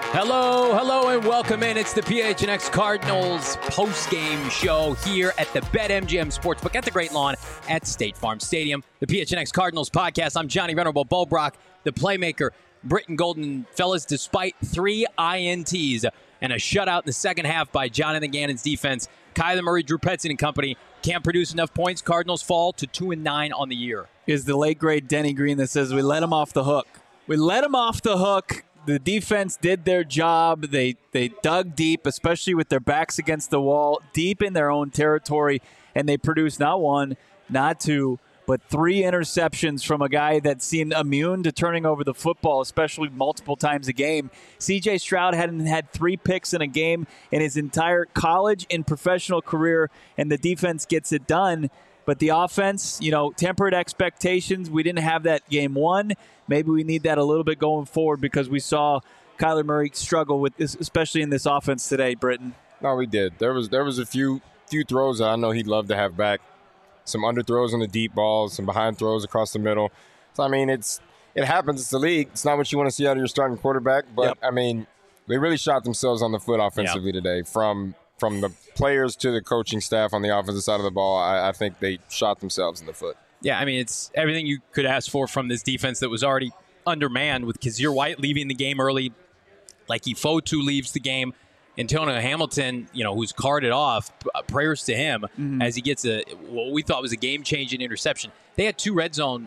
Hello, and welcome in. It's the PHNX Cardinals post-game show here at the BetMGM Sportsbook at the Great Lawn at State Farm Stadium. The PHNX Cardinals podcast. I'm Johnny Venerable Bulbrock, the playmaker, Britton Golden. Fellas, despite 3 INTs and a shutout in the second half by Jonathan Gannon's defense, Kyler Murray, Drew Petzing and company can't produce enough points. Cardinals fall to 2-9 on the year. Is the late, great Denny Green that says we let him off the hook. We let him off the hook. The defense did their job. They dug deep, especially with their backs against the wall, deep in their own territory, and they produced not 1, not 2, but 3 interceptions from a guy that seemed immune to turning over the football, especially multiple times a game. C.J. Stroud hadn't had 3 picks in a game in his entire college and professional career, and the defense gets it done. But the offense, tempered expectations. We didn't have that game 1. Maybe we need that a little bit going forward because we saw Kyler Murray struggle with this, especially in this offense today, Britton. No, we did. There was a few throws that I know he'd love to have back. Some underthrows on the deep balls, some behind throws across the middle. So, it happens. It's the league. It's not what you want to see out of your starting quarterback. But, Yep. They really shot themselves on the foot offensively today. From the players to the coaching staff on the offensive side of the ball, I think they shot themselves in the foot. Yeah, it's everything you could ask for from this defense that was already undermanned with Kazir White leaving the game early. Like Ifotu leaves the game. Antonio Hamilton, who's carted off, prayers to him as he gets what we thought was a game-changing interception. They had 2 end zone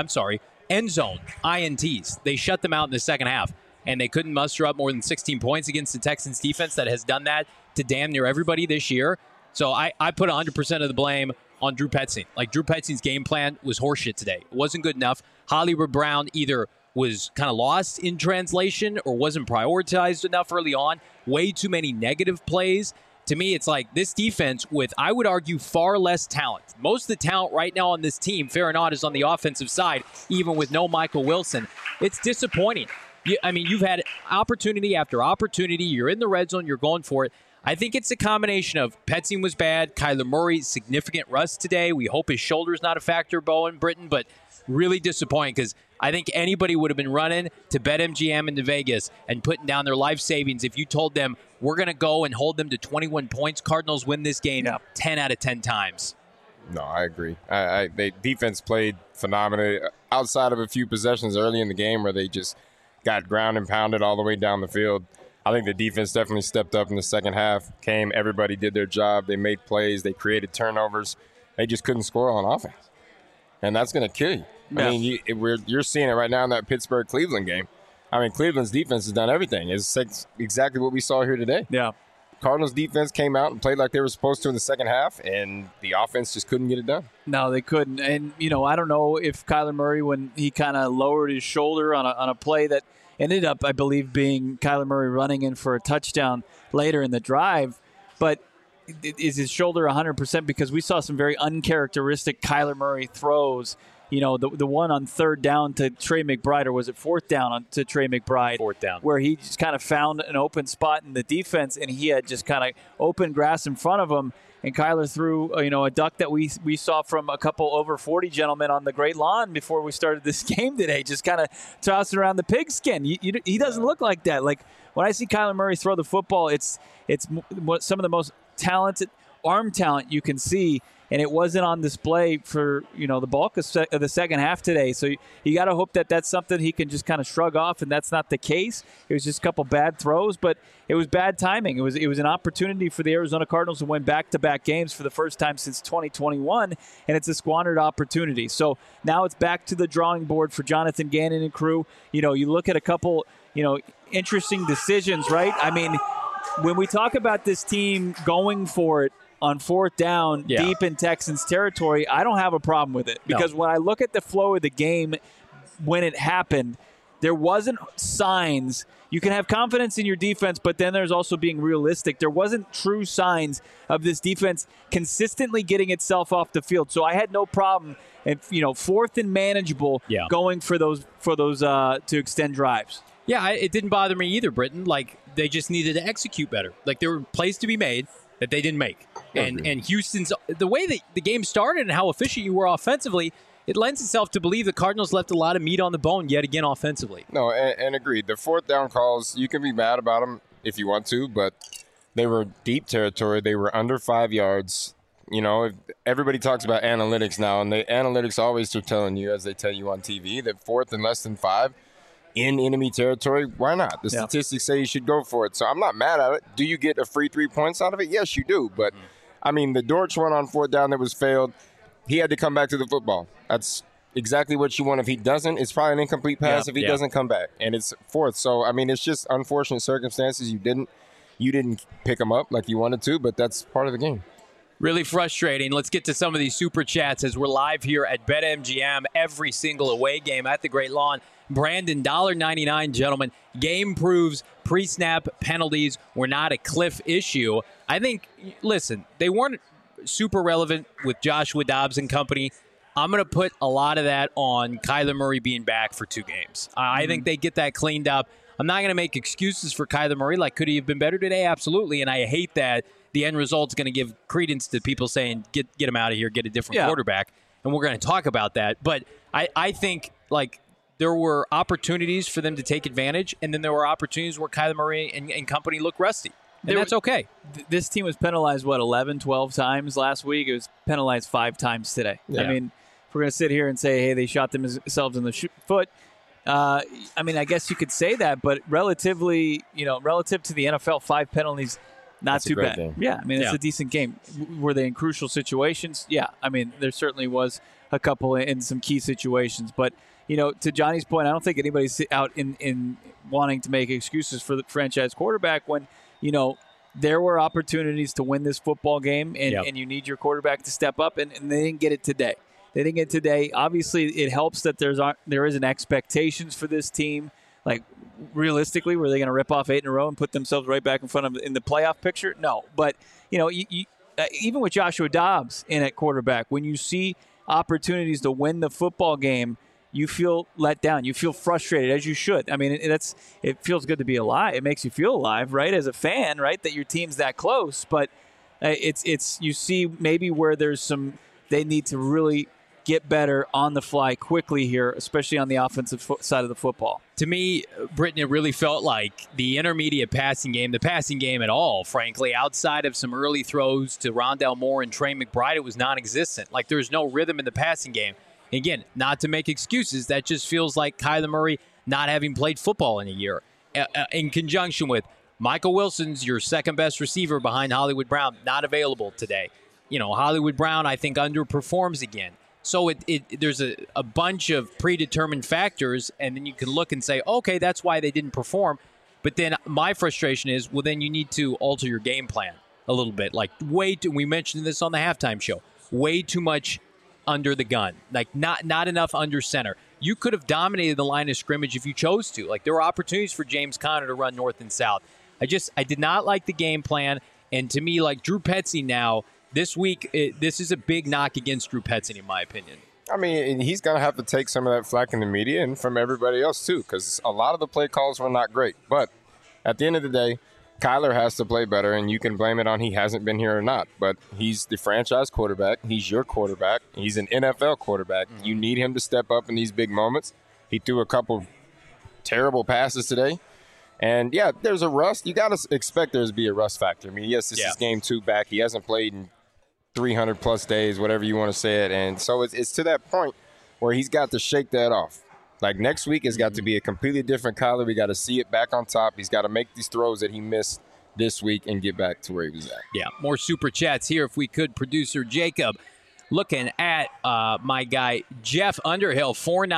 INTs. They shut them out in the second half, and they couldn't muster up more than 16 points against the Texans defense that has done that to damn near everybody this year. So I put 100% of the blame on Drew Petzing. Drew Petzing's game plan was horseshit today. It wasn't good enough. Hollywood Brown either was kind of lost in translation or wasn't prioritized enough early on. Way too many negative plays. To me, it's like this defense with, I would argue, far less talent. Most of the talent right now on this team, fair or not, is on the offensive side, even with no Michael Wilson. It's disappointing. You've had opportunity after opportunity. You're in the red zone. You're going for it. I think it's a combination of Petzing was bad, Kyler Murray, significant rust today. We hope his shoulder's not a factor, Bowen, Britton, but really disappointing because I think anybody would have been running to BetMGM into Vegas and putting down their life savings if you told them we're going to go and hold them to 21 points. Cardinals win this game 10 out of 10 times. No, I agree. They defense played phenomenally outside of a few possessions early in the game where they just got ground and pounded all the way down the field. I think the defense definitely stepped up in the second half. Everybody did their job. They made plays. They created turnovers. They just couldn't score on offense. And that's going to kill you. Yeah. You're seeing it right now in that Pittsburgh-Cleveland game. Cleveland's defense has done everything. It's exactly what we saw here today. Yeah. Cardinals defense came out and played like they were supposed to in the second half, and the offense just couldn't get it done. No, they couldn't. And, I don't know if Kyler Murray, when he kind of lowered his shoulder on a play that ended up, I believe, being Kyler Murray running in for a touchdown later in the drive. But is his shoulder 100%? Because we saw some very uncharacteristic Kyler Murray throws. The one on 3rd down to Trey McBride, or was it 4th down to Trey McBride? 4th down. Where he just kind of found an open spot in the defense, and he had just kind of open grass in front of him. And Kyler threw, a duck that we saw from a couple over 40 gentlemen on the Great Lawn before we started this game today, just kind of tossing around the pigskin. He doesn't look like that. Like, when I see Kyler Murray throw the football, it's some of the most talented arm talent you can see, and it wasn't on display for the bulk of the second half today. So you got to hope that that's something he can just kind of shrug off, and that's not the case. It was just a couple bad throws, but it was bad timing. It was an opportunity for the Arizona Cardinals to win back-to-back games for the first time since 2021, and it's a squandered opportunity. So now it's back to the drawing board for Jonathan Gannon and crew. You look at a couple interesting decisions, right? When we talk about this team going for it on 4th down deep in Texans territory, I don't have a problem with it. Because when I look at the flow of the game when it happened, there wasn't signs. You can have confidence in your defense, but then there's also being realistic. There wasn't true signs of this defense consistently getting itself off the field. So I had no problem, and 4th and manageable, going for those to extend drives. Yeah, it didn't bother me either, Britton. They just needed to execute better. There were plays to be made that they didn't make. And Houston's, the way that the game started and how efficient you were offensively, it lends itself to believe the Cardinals left a lot of meat on the bone yet again offensively. No, and agreed. The fourth down calls, you can be mad about them if you want to, but they were deep territory. They were under 5 yards. You know, everybody talks about analytics now, and the analytics always are telling you, as they tell you on TV, that fourth and less than 5 in enemy territory, why not? The statistics say you should go for it. So I'm not mad at it. Do you get a free 3 points out of it? Yes, you do. But, I mean, the Dortch one on fourth down that was failed, he had to come back to the football. That's exactly what you want. If he doesn't, it's probably an incomplete pass if he doesn't come back. And it's fourth. So, I mean, it's just unfortunate circumstances. You didn't pick him up like you wanted to, but that's part of the game. Really frustrating. Let's get to some of these super chats as we're live here at BetMGM every single away game at the Great Lawn. Brandon, $1.99, gentlemen. Game proves pre-snap penalties were not a Cliff issue. I think, listen, they weren't super relevant with Joshua Dobbs and company. I'm going to put a lot of that on Kyler Murray being back for 2 games. I think they get that cleaned up. I'm not going to make excuses for Kyler Murray. Like, could he have been better today? Absolutely. And I hate that the end result's going to give credence to people saying, get him out of here, get a different quarterback. And we're going to talk about that. But I think, like, there were opportunities for them to take advantage, and then there were opportunities where Kyler Murray and company looked rusty. And that's okay. This team was penalized, 11, 12 times last week? It was penalized 5 times today. Yeah. I mean, if we're going to sit here and say, hey, they shot themselves in the foot, I mean, I guess you could say that, but relatively, relative to the NFL, 5 penalties, not too bad. Game. Yeah, I mean, it's a decent game. Were they in crucial situations? Yeah, I mean, there certainly was a couple in some key situations. But, to Johnny's point, I don't think anybody's out in wanting to make excuses for the franchise quarterback when, there were opportunities to win this football game, and you need your quarterback to step up, and they didn't get it today. Obviously, it helps that there isn't expectations for this team. Like, realistically, were they going to rip off 8 in a row and put themselves right back in front of in the playoff picture? No. But, even with Joshua Dobbs in at quarterback, when you see opportunities to win the football game, you feel let down. You feel frustrated, as you should. I mean, it feels good to be alive. It makes you feel alive, right, as a fan, right, that your team's that close. But it's you see maybe where they need to really get better on the fly quickly here, especially on the offensive side of the football. To me, Britton, it really felt like the intermediate passing game, the passing game at all, frankly, outside of some early throws to Rondale Moore and Trey McBride, it was non-existent. Like, there's no rhythm in the passing game. Again, not to make excuses, that just feels like Kyler Murray not having played football in a year. In conjunction with Michael Wilson's your second best receiver behind Hollywood Brown, not available today. Hollywood Brown, I think, underperforms again. So there's a bunch of predetermined factors, and then you can look and say, okay, that's why they didn't perform. But then my frustration is, well, then you need to alter your game plan a little bit. Like, we mentioned this on the halftime show, way too much under the gun, like not enough under center. You could have dominated the line of scrimmage if you chose to. Like, there were opportunities for James Conner to run north and south. I did not like the game plan, and to me, like, Drew Petzing now, this week, this is a big knock against Drew Petzing, in my opinion. I mean, he's going to have to take some of that flack in the media and from everybody else, too, because a lot of the play calls were not great. But at the end of the day, Kyler has to play better, and you can blame it on he hasn't been here or not. But he's the franchise quarterback. He's your quarterback. He's an NFL quarterback. You need him to step up in these big moments. He threw a couple terrible passes today. And, yeah, there's a rust. You got to expect there to be a rust factor. I mean, yes, this is game 2 back. He hasn't played in 300-plus days, whatever you want to say it. And so it's to that point where he's got to shake that off. Like, next week has got to be a completely different Kyler. We got to see it back on top. He's got to make these throws that he missed this week and get back to where he was at. Yeah, more super chats here if we could. Producer Jacob looking at my guy Jeff Underhill,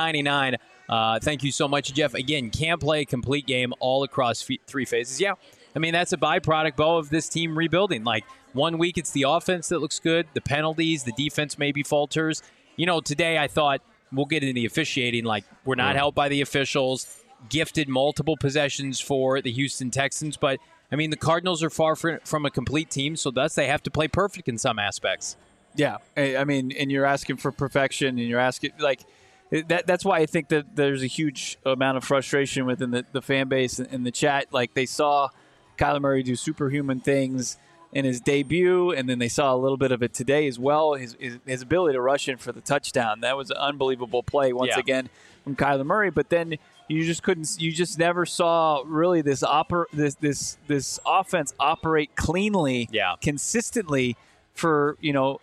$4.99. Thank you so much, Jeff. Again, can't play a complete game all across 3 phases. Yeah, I mean, that's a byproduct, Bo, of this team rebuilding. Like, 1 week it's the offense that looks good, the penalties, the defense maybe falters. Today I thought, we'll get into the officiating. Like, we're not helped by the officials. Gifted multiple possessions for the Houston Texans. But, I mean, the Cardinals are far from a complete team, so thus they have to play perfect in some aspects. Yeah, I mean, and you're asking for perfection, and you're asking, like, that's why I think that there's a huge amount of frustration within the fan base and the chat. Like, they saw Kyler Murray do superhuman things in his debut, and then they saw a little bit of it today as well. His ability to rush in for the touchdown, that was an unbelievable play once again from Kyler Murray. But then you just never saw really this offense operate cleanly, consistently for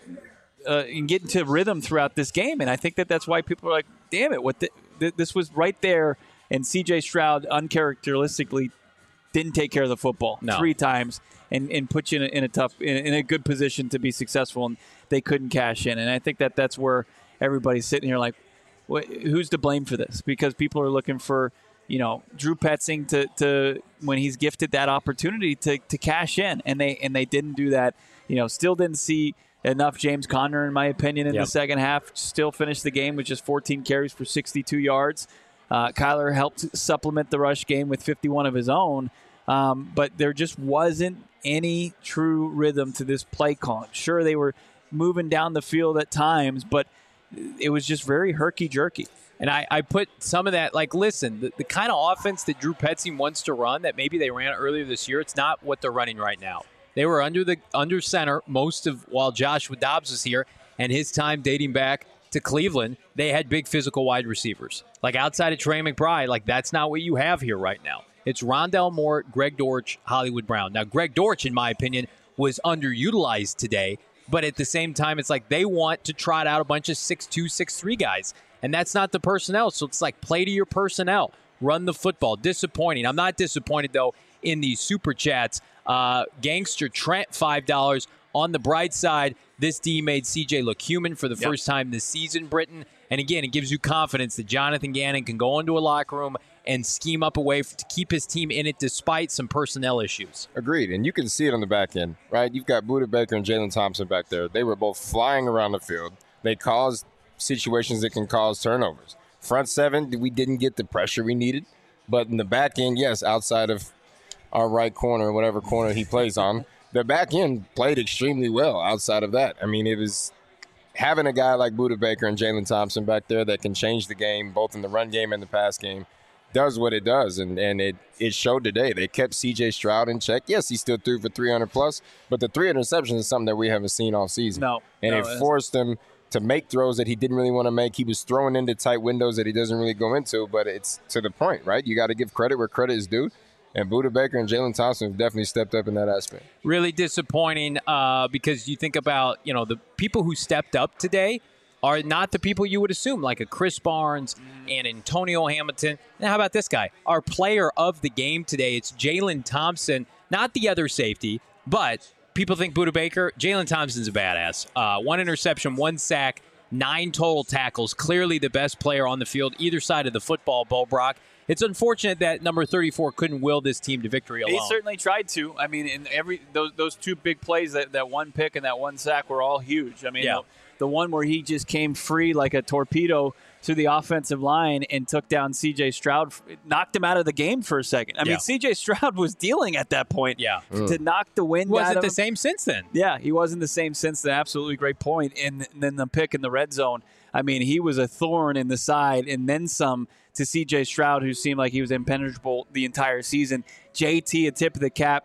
and get into rhythm throughout this game. And I think that's why people are like, damn it, this was right there. And C.J. Stroud uncharacteristically didn't take care of the football 3 times and put you in a good position to be successful, and they couldn't cash in. And I think that's where everybody's sitting here like, who's to blame for this? Because people are looking for Drew Petzing to when he's gifted that opportunity to cash in, and they didn't do that. Still didn't see enough James Conner, in my opinion, in the second half. Still finished the game with just 14 carries for 62 yards. Kyler helped supplement the rush game with 51 of his own, but there just wasn't any true rhythm to this play calling. Sure, they were moving down the field at times, but it was just very herky-jerky. And I put some of that, like, listen, the kind of offense that Drew Petzing wants to run that maybe they ran earlier this year, it's not what they're running right now. They were under center most of while Joshua Dobbs was here, and his time dating back to Cleveland, they had big physical wide receivers. Like outside of Trey McBride, like that's not what you have here right now. It's Rondale Moore, Greg Dortch, Hollywood Brown. Now, Greg Dortch, in my opinion, was underutilized today, but at the same time, it's like they want to trot out a bunch of 6'2", 6'3" guys, and that's not the personnel. So it's like play to your personnel. Run the football. Disappointing. I'm not disappointed, though, in these super chats. Gangster Trent, $5. On the bright side, this D made CJ look human for the first time this season, Britton. And again, it gives you confidence that Jonathan Gannon can go into a locker room and scheme up a way to keep his team in it despite some personnel issues. Agreed. And you can see it on the back end, right? You've got Budda Baker and Jalen Thompson back there. They were both flying around the field. They caused situations that can cause turnovers. Front seven, we didn't get the pressure we needed. But in the back end, yes, outside of our right corner, whatever corner he plays on, the back end played extremely well outside of that. I mean, it was having a guy like Budda Baker and Jalen Thompson back there that can change the game, both in the run game and the pass game, does what it does. And it showed today. They kept C.J. Stroud in check. Yes, he still threw for 300+, but the 3 interceptions is something that we haven't seen all season. It forced him to make throws that he didn't really want to make. He was throwing into tight windows that he doesn't really go into, but it's to the point, right? You got to give credit where credit is due. And Budda Baker and Jalen Thompson have definitely stepped up in that aspect. Really disappointing because you think about, the people who stepped up today are not the people you would assume, like a Chris Barnes and Antonio Hamilton. Now, how about this guy? Our player of the game today, it's Jalen Thompson, not the other safety, but people think Budda Baker. Jalen Thompson's a badass. 1 interception, 1 sack, 9 total tackles. Clearly the best player on the field, either side of the football, Bo Brock. It's unfortunate that number 34 couldn't will this team to victory alone. He certainly tried to. I mean, in those 2 big plays, that 1 pick and that 1 sack were all huge. I mean, the one where he just came free like a torpedo through the offensive line and took down C.J. Stroud, knocked him out of the game for a second. I mean, C.J. Stroud was dealing at that point. To knock the wind out of him. Wasn't the same since then. Yeah, he wasn't the same since then. Absolutely great point. And then the pick in the red zone. I mean, he was a thorn in the side and then some to C.J. Stroud, who seemed like he was impenetrable the entire season. JT, a tip of the cap,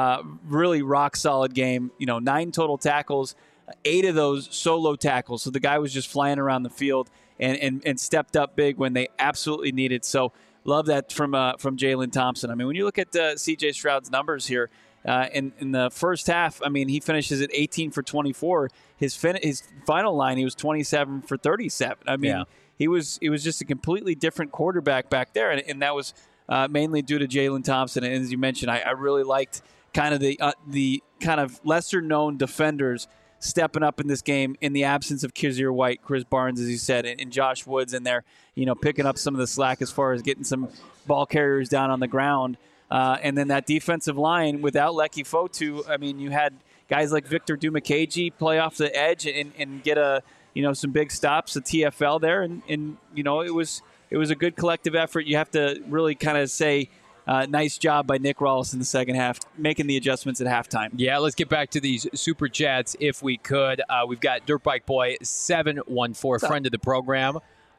really rock-solid game. 9 total tackles, 8 of those solo tackles. So the guy was just flying around the field and stepped up big when they absolutely needed. So love that from Jalen Thompson. I mean, when you look at C.J. Stroud's numbers here, in the first half, I mean, he finishes at 18 for 24. His final line, he was 27 for 37. I mean, he was just a completely different quarterback back there, and that was mainly due to Jalen Thompson. And as you mentioned, I really liked kind of the kind of lesser known defenders stepping up in this game in the absence of Kazir White, Chris Barnes, as you said, and Josh Woods in there, picking up some of the slack as far as getting some ball carriers down on the ground. And then that defensive line without Leki Fotu, I mean, you had guys like Victor Dumakaji play off the edge and get some big stops, a TFL there, and it was a good collective effort. You have to really kind of say nice job by Nick Rawls in the second half, making the adjustments at halftime. Yeah, let's get back to these super chats if we could. We've got Dirt Bike Boy 714, friend of the program.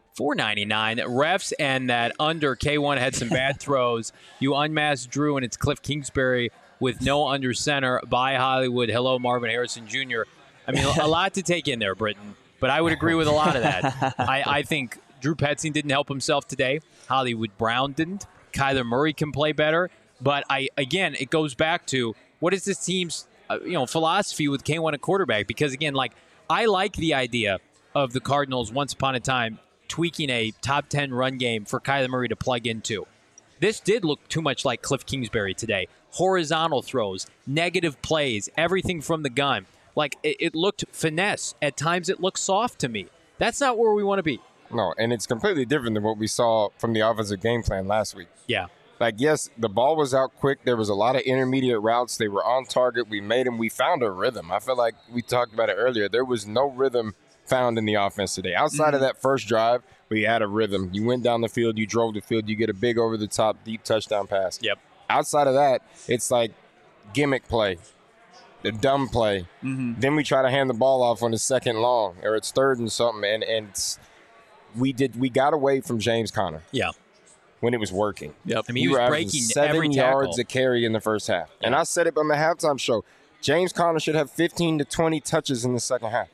$4.99. Refs and that under K1 had some bad throws. You unmasked Drew and it's Cliff Kingsbury with no under center by Hollywood. Hello, Marvin Harrison Jr. I mean, a lot to take in there, Britton, but I would agree with a lot of that. I think Drew Petzing didn't help himself today. Hollywood Brown didn't. Kyler Murray can play better. But again, it goes back to what is this team's philosophy with K1 at quarterback? Because again, I like the idea of the Cardinals once upon a time tweaking a top 10 run game for Kyler Murray to plug into. This did look too much like Cliff Kingsbury today. Horizontal throws, negative plays, everything from the gun. It looked finesse. At times it looked soft to me. That's not where we want to be. No, and it's completely different than what we saw from the offensive game plan last week. Yeah. Yes, the ball was out quick. There was a lot of intermediate routes. They were on target. We made them. We found a rhythm. I feel like we talked about it earlier. There was no rhythm found in the offense today. Outside of that first drive, we had a rhythm. You went down the field. You drove the field. You get a big over-the-top deep touchdown pass. Yep. Outside of that, it's like gimmick play, the dumb play. Mm-hmm. Then we try to hand the ball off on the second long, or it's third and something, and we got away from James Conner. Yeah. When it was working. Yep. I mean, he was breaking every 7 yards a carry in the first half. Yeah. And I said it on the halftime show. James Conner should have 15 to 20 touches in the second half.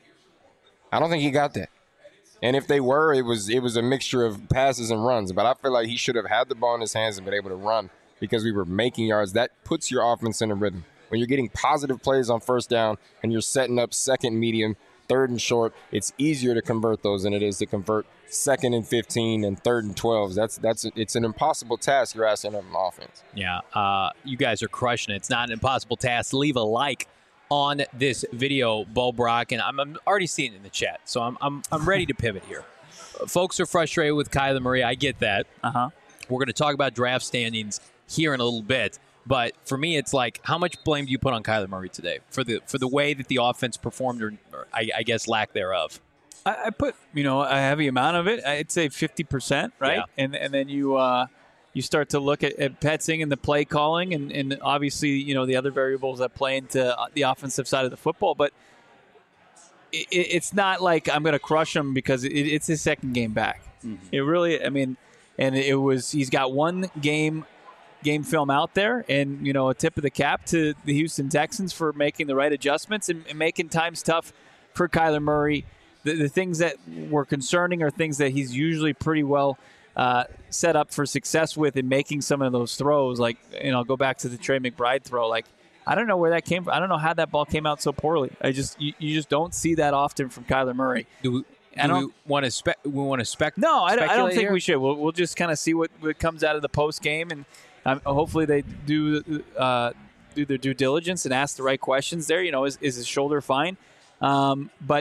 I don't think he got that. And if they were, it was a mixture of passes and runs. But I feel like he should have had the ball in his hands and been able to run because we were making yards. That puts your offense in a rhythm. When you're getting positive plays on first down and you're setting up second medium, third and short, it's easier to convert those than it is to convert second and 15 and third and 12. It's an impossible task you're asking of an offense. Yeah, you guys are crushing it. It's not an impossible task. Leave a like on this video, Bo Brock, and I'm already seeing it in the chat, so I'm ready to pivot here. Folks are frustrated with Kyler Murray. I get that. We're going to talk about draft standings here in a little bit. But for me, it's how much blame do you put on Kyler Murray today for the way that the offense performed, or I guess lack thereof? I put a heavy amount of it. I'd say 50%, right? Yeah. And then you start to look at Petzing and the play calling, and obviously the other variables that play into the offensive side of the football. But it's not like I'm going to crush him because it's his second game back. Mm-hmm. It really, and he's got one game film out there, and a tip of the cap to the Houston Texans for making the right adjustments and making times tough for Kyler Murray. The things that were concerning are things that he's usually pretty well set up for success with in making some of those throws. Go back to the Trey McBride throw. I don't know where that came from. I don't know how that ball came out so poorly. You just don't see that often from Kyler Murray. Do we want to spec? No, I don't think here? we should. We'll just kind of see what comes out of the post game, and hopefully they do their due diligence and ask the right questions there. Is his shoulder fine? But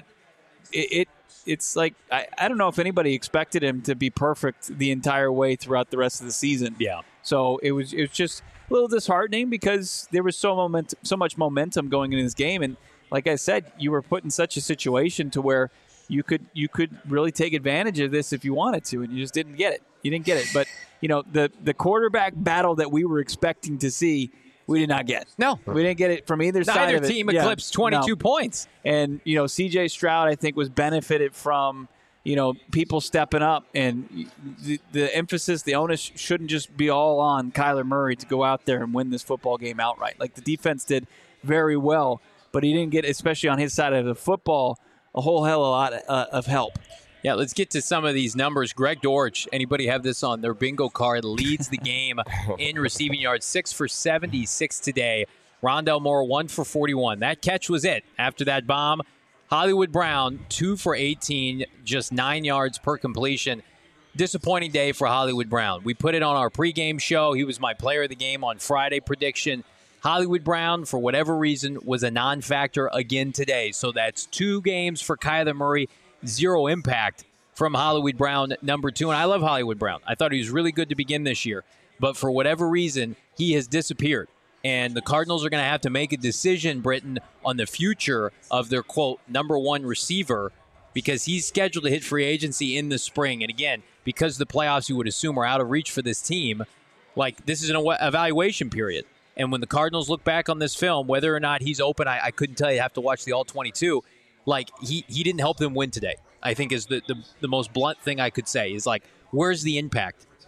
it's I don't know if anybody expected him to be perfect the entire way throughout the rest of the season. Yeah. So it was just a little disheartening because there was so much momentum going into this game, and like I said, you were put in such a situation to where you could really take advantage of this if you wanted to, and you just didn't get it. You didn't get it. But the quarterback battle that we were expecting to see, we did not get. No. We didn't get it from either side of it. Neither team eclipsed 22 points. And, C.J. Stroud, I think, was benefited from, people stepping up. And the emphasis, the onus shouldn't just be all on Kyler Murray to go out there and win this football game outright. The defense did very well, but he didn't get, especially on his side of the football, a whole hell of a lot of help. Yeah, let's get to some of these numbers. Greg Dortch, anybody have this on their bingo card, leads the game in receiving yards, 6 for 76 today. Rondale Moore, 1 for 41. That catch was it. After that bomb, Hollywood Brown, 2 for 18, just 9 yards per completion. Disappointing day for Hollywood Brown. We put it on our pregame show. He was my player of the game on Friday prediction. Hollywood Brown, for whatever reason, was a non-factor again today. So that's 2 games for Kyler Murray. 0 impact from Hollywood Brown, number 2. And I love Hollywood Brown. I thought he was really good to begin this year. But for whatever reason, he has disappeared. And the Cardinals are going to have to make a decision, Britton, on the future of their, quote, number 1 receiver, because he's scheduled to hit free agency in the spring. And again, because the playoffs you would assume are out of reach for this team, this is an evaluation period. And when the Cardinals look back on this film, whether or not he's open, I couldn't tell you. I have to watch the All-22. He didn't help them win today, I think is the most blunt thing I could say is where's the impact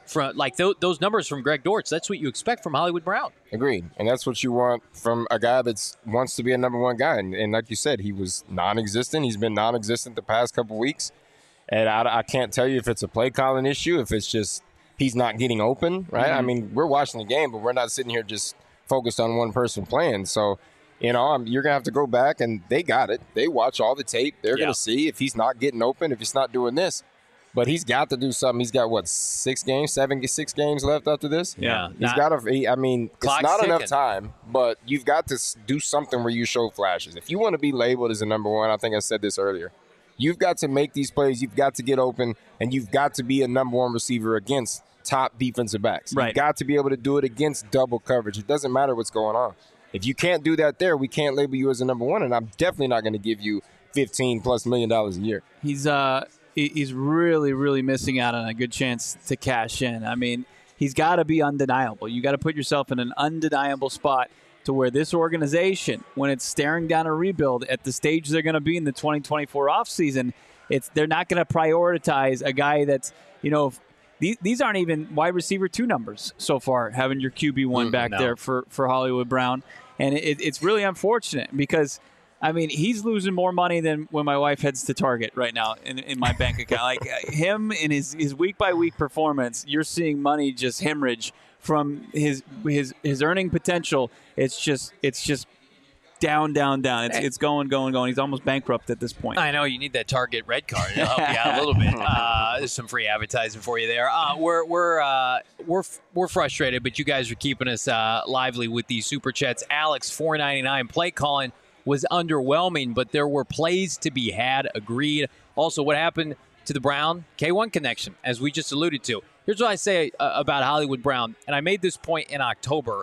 from like those numbers from Greg Dortch. That's what you expect from Hollywood Brown. Agreed. And that's what you want from a guy that wants to be a number one guy. And like you said, he was non-existent. He's been non-existent the past couple weeks. And I can't tell you if it's a play calling issue, if it's just he's not getting open, right? I mean, we're watching the game, but we're not sitting here just focused on one person playing. So, you're going to have to go back, and they got it. They watch all the tape. They're going to see if he's not getting open, if he's not doing this. But he's got to do something. He's got, 6 games left after this? Yeah. He's got to – I mean, it's not enough time, but you've got to do something where you show flashes. If you want to be labeled as a number one, I think I said this earlier, you've got to make these plays. You've got to get open, and you've got to be a number one receiver against top defensive backs. Right. You've got to be able to do it against double coverage. It doesn't matter what's going on. If you can't do that there, we can't label you as a number one, and I'm definitely not going to give you $15+ million a year. He's really, really missing out on a good chance to cash in. I mean, he's got to be undeniable. You got to put yourself in an undeniable spot to where this organization, when it's staring down a rebuild at the stage they're going to be in the 2024 offseason, they're not going to prioritize a guy that's, these aren't even wide receiver 2 numbers so far, having your QB1 back there for Hollywood Brown. And it's really unfortunate because, I mean, he's losing more money than when my wife heads to Target right now in my bank account. Like him in his week-by-week performance, you're seeing money just hemorrhage from his earning potential. It's just down. It's going. He's almost bankrupt at this point. I know you need that Target red card to help you out a little bit. There's some free advertising for you there. We're frustrated, but you guys are keeping us lively with these super chats. Alex, $4.99 play calling was underwhelming, but there were plays to be had. Agreed. Also, what happened to the Brown K1 connection, as we just alluded to? Here's what I say about Hollywood Brown, and I made this point in October.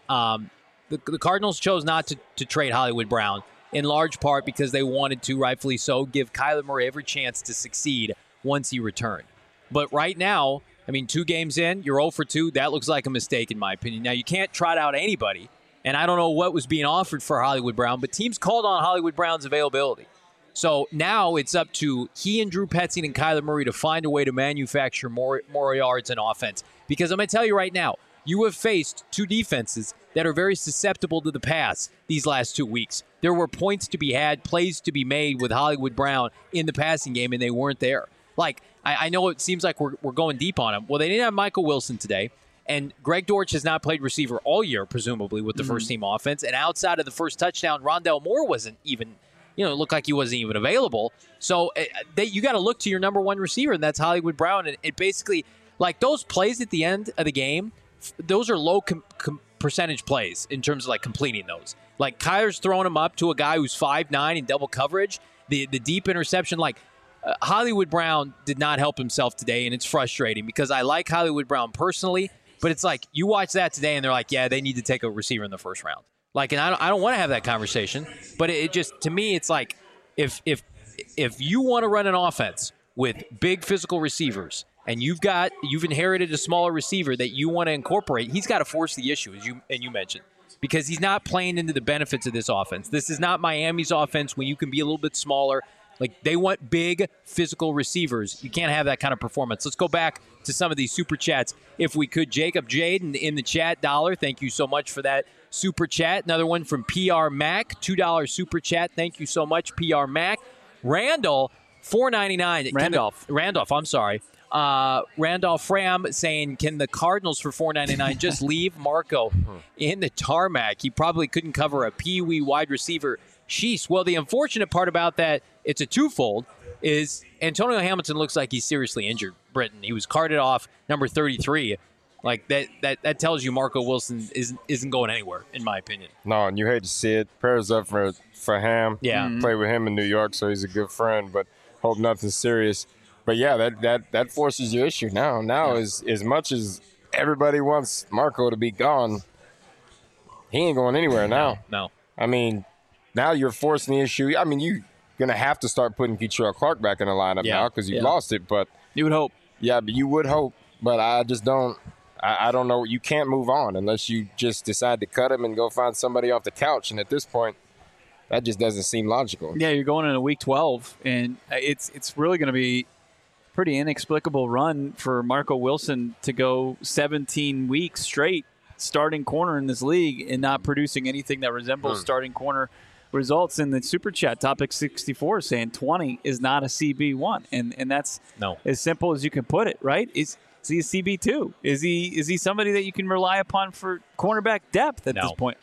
The Cardinals chose not to trade Hollywood Brown, in large part because they wanted to, rightfully so, give Kyler Murray every chance to succeed once he returned. But right now, I mean, 2 games in, you're 0 for 2. That looks like a mistake, in my opinion. Now, you can't trot out anybody, and I don't know what was being offered for Hollywood Brown, but teams called on Hollywood Brown's availability. So now it's up to he and Drew Petzing and Kyler Murray to find a way to manufacture more yards and offense. Because I'm going to tell you right now, you have faced 2 defenses that are very susceptible to the pass these last 2 weeks. There were points to be had, plays to be made with Hollywood Brown in the passing game, and they weren't there. Like, I know it seems like we're going deep on him. Well, they didn't have Michael Wilson today, and Greg Dortch has not played receiver all year, presumably, with the first-team offense. And outside of the first touchdown, Rondell Moore wasn't even, it looked like he wasn't even available. So you got to look to your number one receiver, and that's Hollywood Brown. And it basically, like those plays at the end of the game, those are low percentage plays in terms of like completing those. Like Kyler's throwing them up to a guy who's 5'9" in double coverage. The deep interception, Hollywood Brown did not help himself today, and it's frustrating because I like Hollywood Brown personally, but it's like you watch that today and they're like, yeah, they need to take a receiver in the first round. Like, and I don't want to have that conversation, but it just, to me, it's like if you want to run an offense with big physical receivers and you've inherited a smaller receiver that you want to incorporate, he's got to force the issue, as you mentioned, because he's not playing into the benefits of this offense. This is not Miami's offense when you can be a little bit smaller. Like, they want big physical receivers. You can't have that kind of performance. Let's go back to some of these super chats. If we could, Jacob Jade in the chat, $1. Thank you so much for that super chat. Another one from PR Mac, $2 super chat. Thank you so much, PR Mac. Randall, $4.99. Randolph, I'm sorry. Randolph Ram saying, can the Cardinals for $4.99 just leave Marco in the tarmac? He probably couldn't cover a Pee-wee wide receiver. Sheesh. Well, the unfortunate part about that, it's a twofold, is Antonio Hamilton looks like he's seriously injured, Britton. He was carted off, number 33. Like, that tells you Marco Wilson isn't going anywhere, in my opinion. No, and you hate to see it. Prayers up for Ham. Yeah. Played with him in New York, so he's a good friend, but hope nothing serious. But, yeah, that forces your issue now. Now, as much as everybody wants Marco to be gone, he ain't going anywhere now. No. I mean, now you're forcing the issue. I mean, you're going to have to start putting Kei'Trell Clark back in the lineup now because you've lost it. But you would hope. Yeah, but you would hope. But I just don't. I don't know. You can't move on unless you just decide to cut him and go find somebody off the couch. And at this point, that just doesn't seem logical. Yeah, you're going into week 12, and it's really going to be pretty inexplicable run for Marco Wilson to go 17 weeks straight starting corner in this league and not producing anything that resembles starting corner results. In the Super Chat, Topic 64 saying 20 is not a CB1. And that's as simple as you can put it, right? Is he a CB2? Is he somebody that you can rely upon for cornerback depth at this point?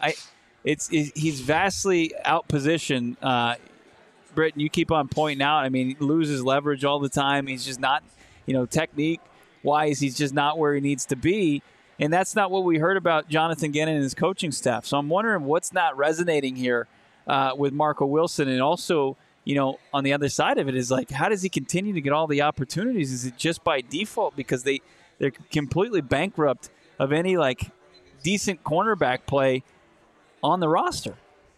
He's vastly outpositioned. Britton, you keep on pointing out. I mean, he loses leverage all the time. He's just not, technique-wise, he's just not where he needs to be. And that's not what we heard about Jonathan Gannon and his coaching staff. So I'm wondering what's not resonating here with Marco Wilson. And also, on the other side of it is like, how does he continue to get all the opportunities? Is it just by default because they're completely bankrupt of any, decent cornerback play on the roster?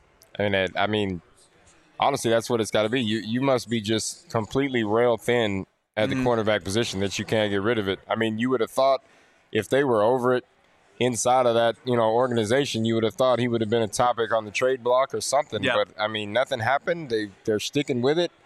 I mean, honestly, that's what it's got to be. You must be just completely rail thin at the cornerback position that you can't get rid of it. I mean, you would have thought if they were over it inside of that, organization, you would have thought he would have been a topic on the trade block or something. Yeah. But, I mean, nothing happened. They're sticking with it.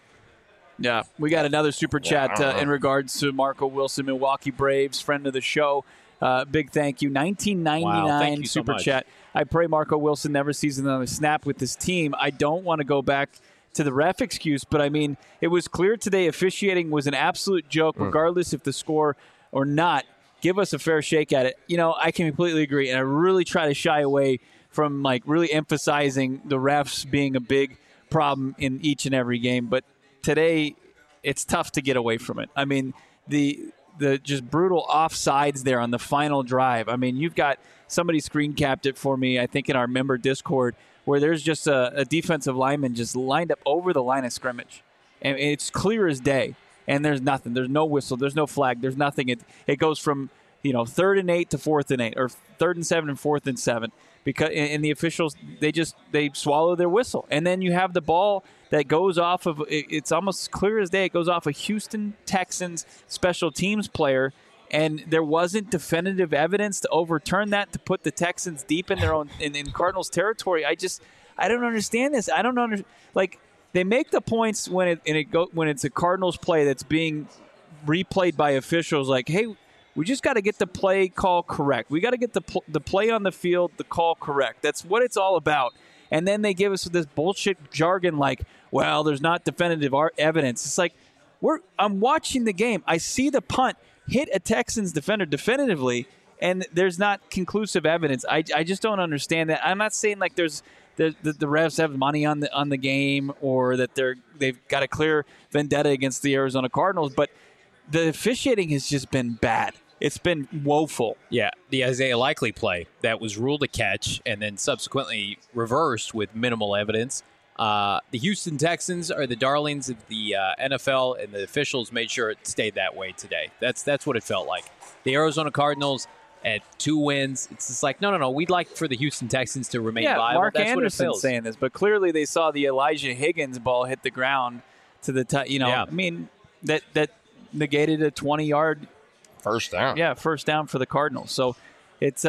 Yeah, we got another Super Chat in regards to Marco Wilson, Milwaukee Braves, friend of the show. Big thank you. 1999 thank you Super so Chat. I pray Marco Wilson never sees another snap with this team. I don't want to go back to the ref excuse, but I mean, it was clear today officiating was an absolute joke, regardless if the score or not. Give us a fair shake at it. I can completely agree, and I really try to shy away from really emphasizing the refs being a big problem in each and every game. But today, it's tough to get away from it. I mean, the just brutal offsides there on the final drive. I mean, you've got somebody screen capped it for me, I think, in our member Discord, where there's just a defensive lineman just lined up over the line of scrimmage. And it's clear as day. And there's nothing. There's no whistle. There's no flag. There's nothing. It goes from 3rd and 8 to 4th and 8, or 3rd and 7 and 4th and 7, because and the officials they swallow their whistle, and then you have the ball that goes off of. It's almost clear as day. It goes off a Houston Texans special teams player, and there wasn't definitive evidence to overturn that, to put the Texans deep in their own in Cardinals territory. I don't understand this. I don't understand. They make the points when it's a Cardinals play that's being replayed by officials. Like, hey, we just got to get the play call correct. We got to get the play on the field, the call correct. That's what it's all about. And then they give us this bullshit jargon like, well, there's not definitive evidence. It's like, I'm watching the game. I see the punt hit a Texans defender definitively, and there's not conclusive evidence. I just don't understand that. I'm not saying the refs have money on the game, or that they've got a clear vendetta against the Arizona Cardinals, but the officiating has just been bad. It's been woeful. Yeah, the Isaiah Likely play that was ruled a catch and then subsequently reversed with minimal evidence. The Houston Texans are the darlings of the NFL, and the officials made sure it stayed that way today. That's what it felt like. The Arizona Cardinals at 2 wins, it's just like, no, we'd like for the Houston Texans to remain viable. Mark That's Anderson's saying this, but clearly they saw the Elijah Higgins ball hit the ground to the Yeah. I mean, that negated a 20-yard first down. Yeah, first down for the Cardinals. So it's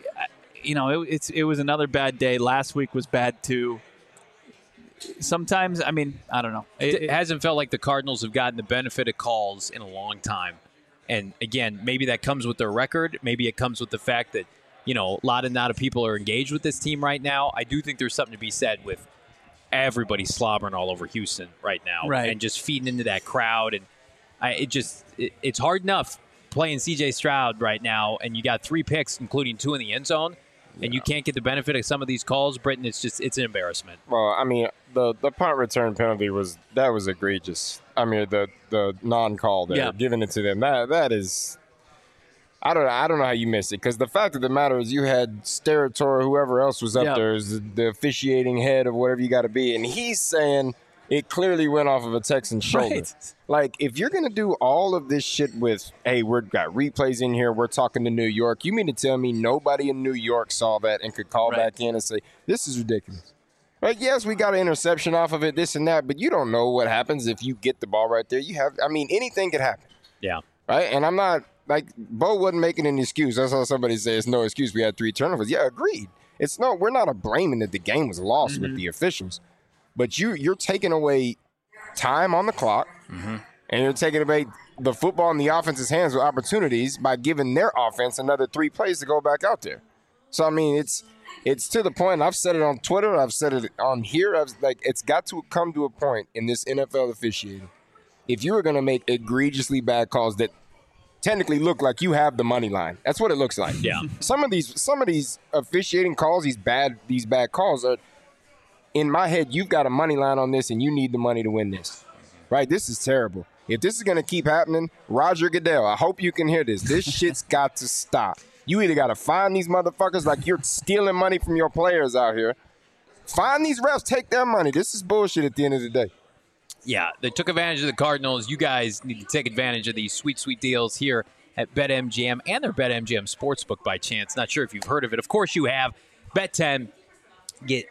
it was another bad day. Last week was bad too. Sometimes, I mean, I don't know. It hasn't felt like the Cardinals have gotten the benefit of calls in a long time. And again, maybe that comes with their record. Maybe it comes with the fact that, a lot of people are engaged with this team right now. I do think there's something to be said with everybody slobbering all over Houston right now, right, and just feeding into that crowd. And it's hard enough playing C.J. Stroud right now, and you got 3 picks, including 2 in the end zone, and you can't get the benefit of some of these calls. Britton, it's an embarrassment. Well, I mean, the punt return penalty was egregious. I mean, the non-call there, giving it to them, that is, I don't know how you missed it, because the fact of the matter is you had Steratore, whoever else was up there, is the officiating head of whatever you got to be, and he's saying it clearly went off of a Texan shoulder. Right. Like, if you're going to do all of this shit with, hey, we've got replays in here, we're talking to New York, you mean to tell me nobody in New York saw that and could call back in and say, this is ridiculous? Right? Yes, we got an interception off of it, this and that, but you don't know what happens if you get the ball right there. Anything could happen. Yeah. Right? And I'm not, Bo wasn't making an excuse. I saw somebody say it's no excuse. We had 3 turnovers. Yeah, agreed. We're not blaming that the game was lost with the officials. But you're taking away time on the clock. And you're taking away the football in the offense's hands with opportunities by giving their offense another 3 plays to go back out there. So, I mean, it's to the point. I've said it on Twitter. I've said it on here. It's got to come to a point in this NFL officiating. If you were going to make egregiously bad calls that technically look like you have the money line, that's what it looks like. Yeah. Some of these officiating calls, these bad calls are, in my head, you've got a money line on this and you need the money to win this. Right? This is terrible. If this is going to keep happening, Roger Goodell, I hope you can hear this. This shit's got to stop. You either got to find these motherfuckers like you're stealing money from your players out here. Find these refs, take their money. This is bullshit at the end of the day. Yeah, they took advantage of the Cardinals. You guys need to take advantage of these sweet, sweet deals here at BetMGM and their BetMGM Sportsbook by chance. Not sure if you've heard of it. Of course you have. Bet 10, get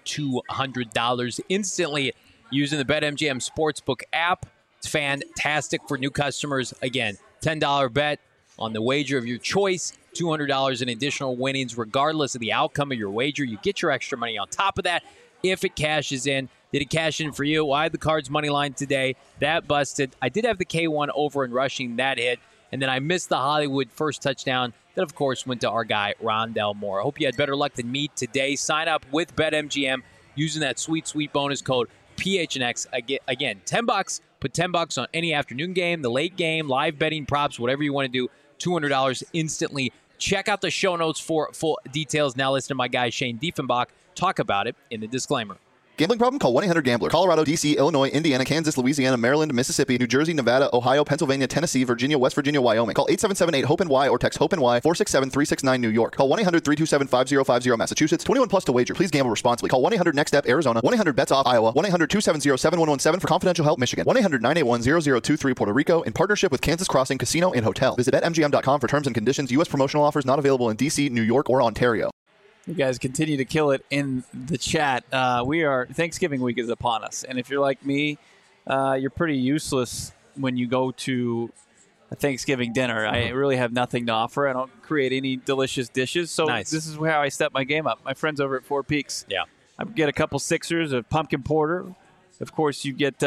$200 instantly using the BetMGM Sportsbook app. It's fantastic for new customers. Again, $10 bet on the wager of your choice, $200 in additional winnings regardless of the outcome of your wager. You get your extra money on top of that if it cashes in. Did it cash in for you? Well, I had the Cards money line today. That busted. I did have the K1 over in rushing. That hit. And then I missed the Hollywood first touchdown. That, of course, went to our guy, Rondell Moore. I hope you had better luck than me today. Sign up with BetMGM using that sweet, sweet bonus code PHNX. Again, $10. Put $10 on any afternoon game, the late game, live betting, props, whatever you want to do. $200 instantly. Check out the show notes for full details. Now listen to my guy Shane Diefenbach talk about it in the disclaimer. Gambling problem? Call 1-800-GAMBLER. Colorado, D.C., Illinois, Indiana, Kansas, Louisiana, Maryland, Mississippi, New Jersey, Nevada, Ohio, Pennsylvania, Tennessee, Virginia, West Virginia, Wyoming. Call 877-8-HOPE-NY or text HOPE-NY 467-369 New York. Call 1-800-327-5050 Massachusetts. 21 plus to wager. Please gamble responsibly. Call 1-800-NEXT-STEP Arizona. 1-800-BETS-OFF Iowa. 1-800-270-7117 for confidential help Michigan. 1-800-981-0023 Puerto Rico in partnership with Kansas Crossing Casino and Hotel. Visit BetMGM.com for terms and conditions. U.S. promotional offers not available in D.C., New York, or Ontario. You guys continue to kill it in the chat. Thanksgiving week is upon us. And if you're like me, you're pretty useless when you go to a Thanksgiving dinner. I really have nothing to offer. I don't create any delicious dishes. So Nice. This is how I step my game up. My friends over at Four Peaks. Yeah. I get a couple sixers of pumpkin porter. Of course, you get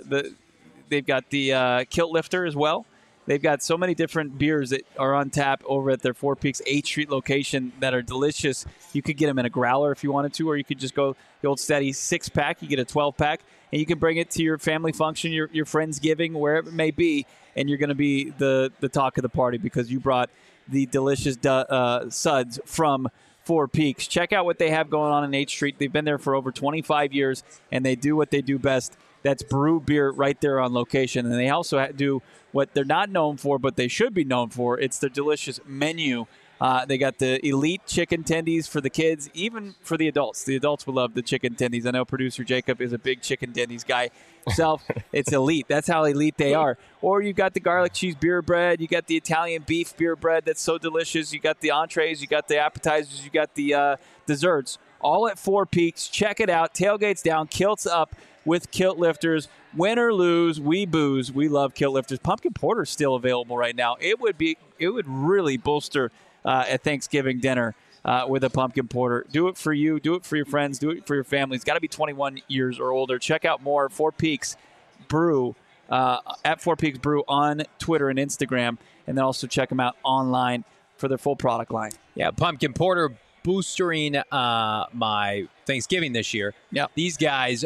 they've got the kilt lifter as well. They've got so many different beers that are on tap over at their Four Peaks 8th Street location that are delicious. You could get them in a growler if you wanted to, or you could just go the old steady 6-pack. You get a 12-pack, and you can bring it to your family function, your Friendsgiving, wherever it may be, and you're going to be the talk of the party because you brought the delicious suds from Four Peaks. Check out what they have going on 8th Street. They've been there for over 25 years, and they do what they do best. That's brew beer right there on location. And they also do what they're not known for, but they should be known for. It's their delicious menu. They got the elite chicken tendies for the kids, even for the adults. The adults will love the chicken tendies. I know producer Jacob is a big chicken tendies guy himself. It's elite. That's how elite they are. Or you got the garlic cheese beer bread. You got the Italian beef beer bread that's so delicious. You got the entrees. You got the appetizers. You got the desserts. All at Four Peaks. Check it out. Tailgates down, kilts up with kilt lifters. Win or lose, we booze. We love kilt lifters. Pumpkin porter is still available right now. It would really bolster a Thanksgiving dinner with a pumpkin porter. Do it for you. Do it for your friends. Do it for your family. It's got to be 21 years or older. Check out more Four Peaks Brew at Four Peaks Brew on Twitter and Instagram, and then also check them out online for their full product line. Yeah, pumpkin porter boostering my Thanksgiving this year. Yeah, these guys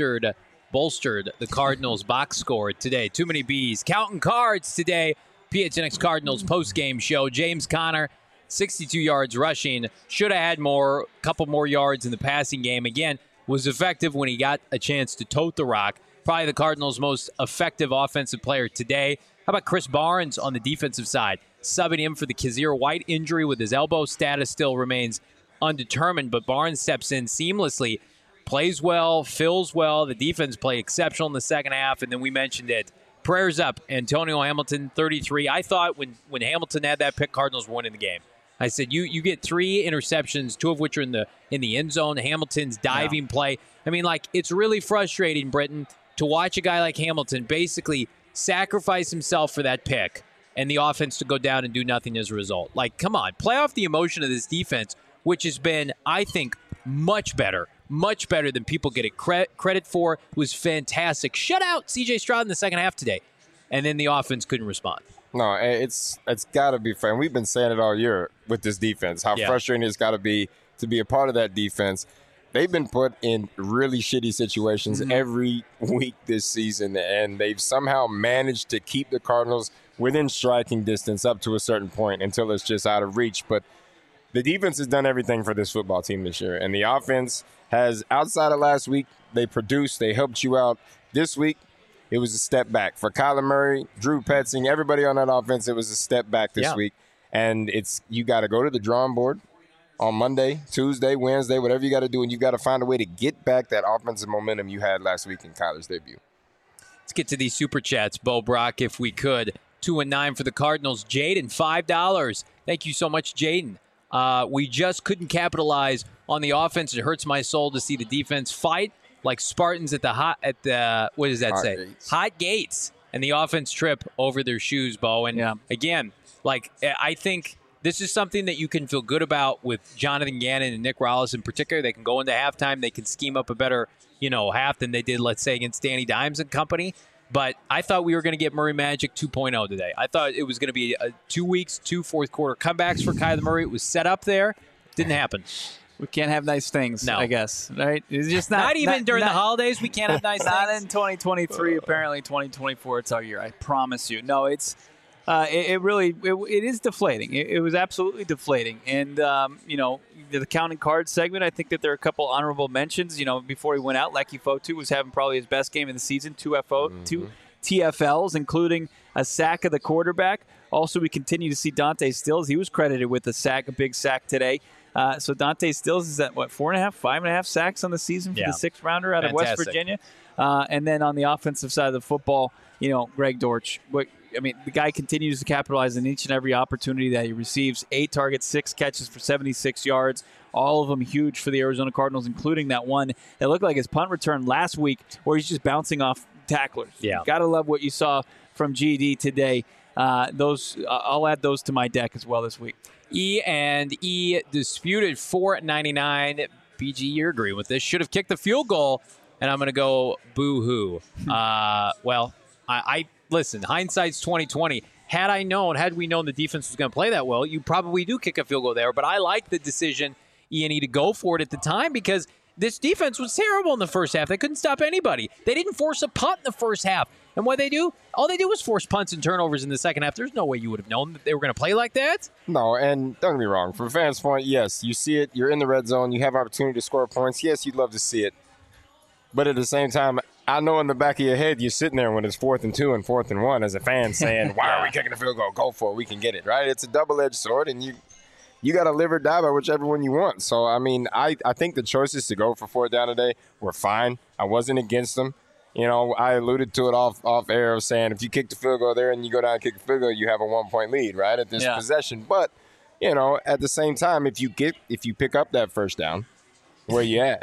bolstered the Cardinals box score today. Too many B's. Counting cards today. PHNX Cardinals post-game show. James Conner, 62 yards rushing. Should have had more, a couple more yards in the passing game. Again, was effective when he got a chance to tote the rock. Probably the Cardinals' most effective offensive player today. How about Chris Barnes on the defensive side? Subbing him for the Kazir White injury with his elbow. Status still remains undetermined, but Barnes steps in seamlessly, plays well, fills well. The defense played exceptional in the second half, and then we mentioned it. Prayers up. Antonio Hamilton, 33. I thought when Hamilton had that pick, Cardinals won in the game. I said, you get 3 interceptions, 2 of which are in the end zone. Hamilton's diving play. I mean, it's really frustrating, Britton, to watch a guy like Hamilton basically sacrifice himself for that pick and the offense to go down and do nothing as a result. Come on. Play off the emotion of this defense, which has been, I think, much better than people get it credit for. It was fantastic. Shut out C.J. Stroud in the second half today. and then the offense couldn't respond. No, it's got to be fair. And we've been saying it all year with this defense, how frustrating it's got to be a part of that defense. They've been put in really shitty situations every week this season, and they've somehow managed to keep the Cardinals within striking distance up to a certain point until it's just out of reach. But the defense has done everything for this football team this year, and the offense has, outside of last week, they produced, they helped you out. This week, it was a step back. For Kyler Murray, Drew Petzing, everybody on that offense, it was a step back this week. And you got to go to the drawing board on Monday, Tuesday, Wednesday, whatever you got to do, and you got to find a way to get back that offensive momentum you had last week in Kyler's debut. Let's get to these super chats, Bo Brock, if we could. 2 and 9 for the Cardinals. Jaden, $5. Thank you so much, Jaden. We just couldn't capitalize on the offense. It hurts my soul to see the defense fight like Spartans at the what does that Hot say? gates. Hot gates, and the offense trip over their shoes, Bo. And again, like I think this is something that you can feel good about with Jonathan Gannon and Nick Rallis in particular. They can go into halftime. They can scheme up a better, half than they did, let's say, against Danny Dimes and company. But I thought we were going to get Murray Magic 2.0 today. I thought it was going to be 2 weeks, 2 fourth-quarter comebacks for Kyler Murray. It was set up there. Didn't happen. We can't have nice things, No. I guess, right? It's just Not even during the holidays. We can't have nice Not things. in 2023. Apparently, 2024. It's our year. I promise you. No, it's it is deflating. It was absolutely deflating. And the counting cards segment, I think that there are a couple honorable mentions. Before he went out, Lecky Fotu was having probably his best game of the season. 2 TFLs, including a sack of the quarterback. Also, we continue to see Dante Stills. He was credited with a big sack today. So Dante Stills is at 4.5, 5.5 sacks on the season for the 6th rounder out of West Virginia. And then on the offensive side of the football, Greg Dortch. The guy continues to capitalize on each and every opportunity that he receives. 8 targets, 6 catches for 76 yards. All of them huge for the Arizona Cardinals, including that one that looked like his punt return last week where he's just bouncing off tacklers. Yeah. Got to love what you saw from GD today. I'll add those to my deck as well this week. E disputed $4.99. BG, you're agreeing with this. Should have kicked the field goal, and I'm going to go boo-hoo. Well, I listen, hindsight's 20/20. Had we known the defense was going to play that well, you probably do kick a field goal there. But I like the decision, E&E, to go for it at the time because this defense was terrible in the first half. They couldn't stop anybody. They didn't force a punt in the first half. And what they do? All they do was force punts and turnovers in the second half. There's no way you would have known that they were going to play like that. No, and don't get me wrong. From a fan's point, yes, you see it. You're in the red zone. You have opportunity to score points. Yes, you'd love to see it. But at the same time, I know in the back of your head, you're sitting there when it's 4th and 2 and 4th and 1 as a fan saying, why are we kicking the field goal? Go for it. We can get it, right? It's a double-edged sword, and you got to live or die by whichever one you want. So, I think the choices to go for 4th down today were fine. I wasn't against them. I alluded to it off air of saying if you kick the field goal there and you go down and kick the field goal, you have a 1-point lead, right, at this possession. But, at the same time, if you pick up that first down, where you at?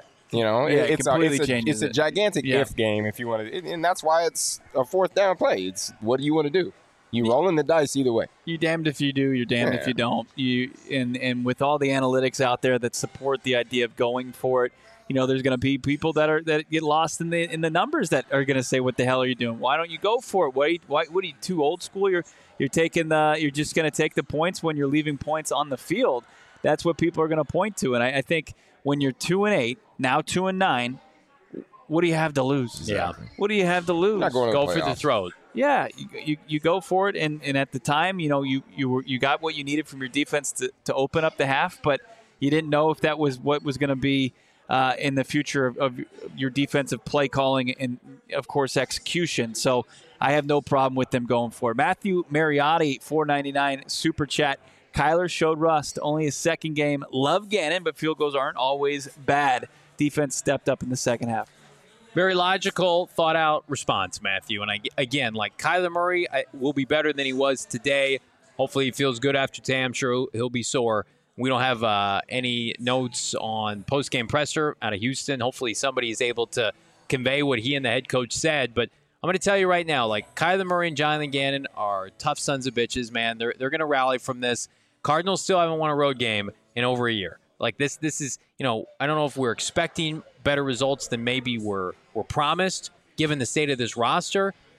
It's a gigantic if game if you want to, and that's why it's a 4th down play. It's what do you want to do? You rolling the dice either way. You're damned if you do. You're damned if you don't. And with all the analytics out there that support the idea of going for it, there's going to be people that get lost in the numbers that are going to say, "What the hell are you doing? Why don't you go for it? What are you too old school? You're just going to take the points when you're leaving points on the field." That's what people are going to point to, and I think when you're 2-8, now 2-9, what do you have to lose? Exactly. What do you have to lose? Not going to Go the for the playoffs. throat. Yeah, you go for it, and at the time, you got what you needed from your defense to open up the half, but you didn't know if that was what was going to be in the future of your defensive play calling and, of course, execution. So I have no problem with them going for it. Matthew Mariotti, $4.99 super chat. Kyler showed rust, only his 2nd game. Love Gannon, but field goals aren't always bad. Defense stepped up in the second half. Very logical, thought-out response, Matthew. And again, like Kyler Murray will be better than he was today. Hopefully he feels good after today. I'm sure he'll be sore. We don't have any notes on post-game presser out of Houston. Hopefully somebody is able to convey what he and the head coach said. But I'm going to tell you right now, like Kyler Murray and Jonathan Gannon are tough sons of bitches, man. They're going to rally from this. Cardinals still haven't won a road game in over a year. Like this is, I don't know if we're expecting better results than maybe were promised given the state of this roster.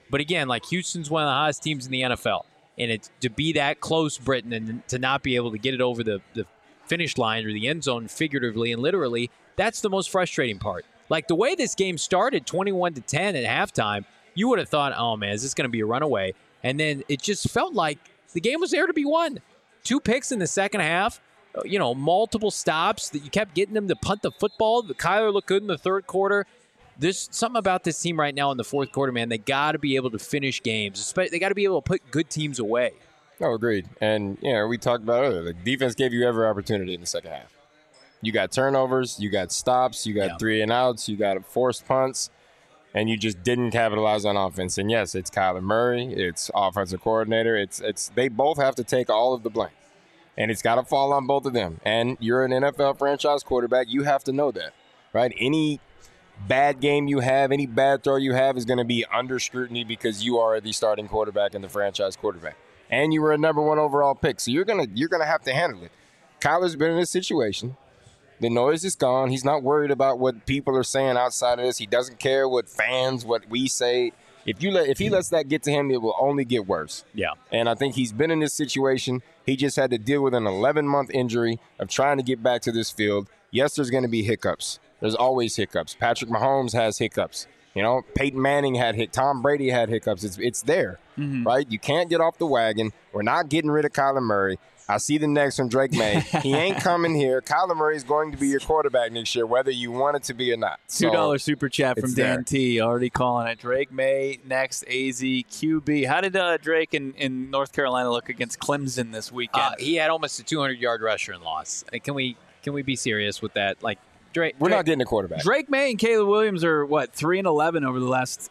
But again, like Houston's one of the hottest teams in the NFL. And it's to be that close, Britton, and to not be able to get it over the finish line or the end zone figuratively and literally, that's the most frustrating part. Like the way this game started, 21-10 at halftime, you would have thought, oh, man, is this going to be a runaway? And then it just felt like the game was there to be won. 2 picks in the second half, multiple stops that you kept getting them to punt the football. Kyler looked good in the third quarter. There's something about this team right now in the fourth quarter, man. They got to be able to finish games. They got to be able to put good teams away. No, agreed. And, we talked about earlier, the defense gave you every opportunity in the second half. You got turnovers, you got stops, you got 3 and outs, you got forced punts, and you just didn't capitalize on offense. And, yes, it's Kyler Murray, it's offensive coordinator. It's they both have to take all of the blame. And it's got to fall on both of them. And you're an NFL franchise quarterback. You have to know that, right? Any bad game you have, any bad throw you have is going to be under scrutiny because you are the starting quarterback and the franchise quarterback. And you were a number 1 overall pick. So you're gonna have to handle it. Kyler's been in this situation. The noise is gone. He's not worried about what people are saying outside of this. He doesn't care what we say. If he lets that get to him, it will only get worse. Yeah. And I think he's been in this situation. He just had to deal with an 11-month injury of trying to get back to this field. Yes, there's going to be hiccups. There's always hiccups. Patrick Mahomes has hiccups. Peyton Manning had hiccups. Tom Brady had hiccups. It's there, right? You can't get off the wagon. We're not getting rid of Kyler Murray. I see the next from Drake May. He ain't coming here. Kyler Murray is going to be your quarterback next year, whether you want it to be or not. $2 super chat from Dan T. Already calling it. Drake May, next, AZ, QB. How did Drake in North Carolina look against Clemson this weekend? He had almost a 200-yard rusher and loss. Can we be serious with that? Like, We're not getting a quarterback. Drake May and Caleb Williams are, 3-11 over the last,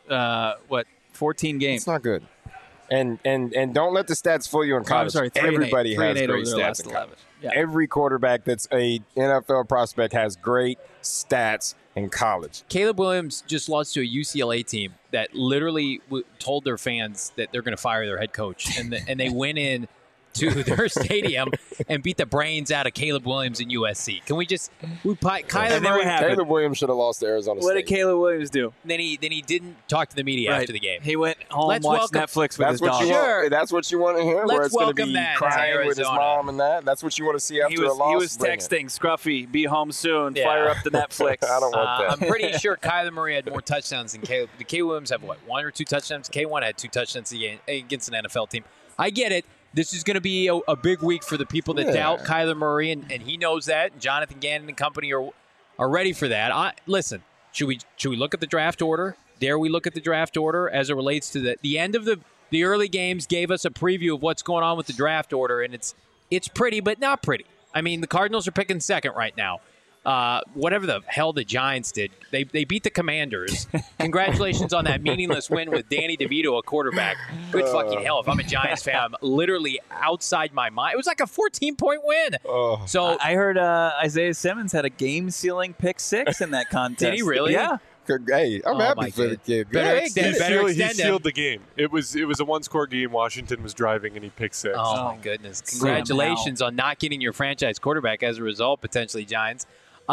14 games. It's not good. And don't let the stats fool you in college. I'm sorry, everybody has great stats in college. Yeah. Every quarterback that's a NFL prospect has great stats in college. Caleb Williams just lost to a UCLA team that literally told their fans that they're going to fire their head coach, and they went in to their stadium and beat the brains out of Caleb Williams and USC. Can we just Kyler Murray? Caleb Williams should have lost to Arizona State. What did Caleb Williams do? Then he didn't talk to the media after the game. He went home and watched Netflix with his dog. Sure. That's what you want to hear? Let's where it's going to be crying with his mom and that? That's what you want to see after a loss? He was texting, Scruffy, be home soon, fire up the Netflix. I don't want that. I'm pretty sure Kyler Murray had more touchdowns than Caleb. Did Caleb Williams have, 1 or 2 touchdowns? K1 had 2 touchdowns against an NFL team. I get it. This is going to be a big week for the people that doubt Kyler Murray, and he knows that. And Jonathan Gannon and company are ready for that. Listen, should we look at the draft order? Dare we look at the draft order as it relates to the end of the early games? Gave us a preview of what's going on with the draft order, and it's pretty, but not pretty. I mean, the Cardinals are picking second right now. Whatever the hell the Giants did, they beat the Commanders. Congratulations on that meaningless win with Danny DeVito, a quarterback. Good fucking hell. If I'm a Giants fan, I'm literally outside my mind. It was like a 14-point win. So I heard Isaiah Simmons had a game-sealing pick 6 in that contest. Did he really? Yeah. Hey, I'm happy for the kid. He sealed the game. It was a one-score game. Washington was driving, and he picked 6. Oh, my goodness. Congratulations on not getting your franchise quarterback as a result, potentially, Giants.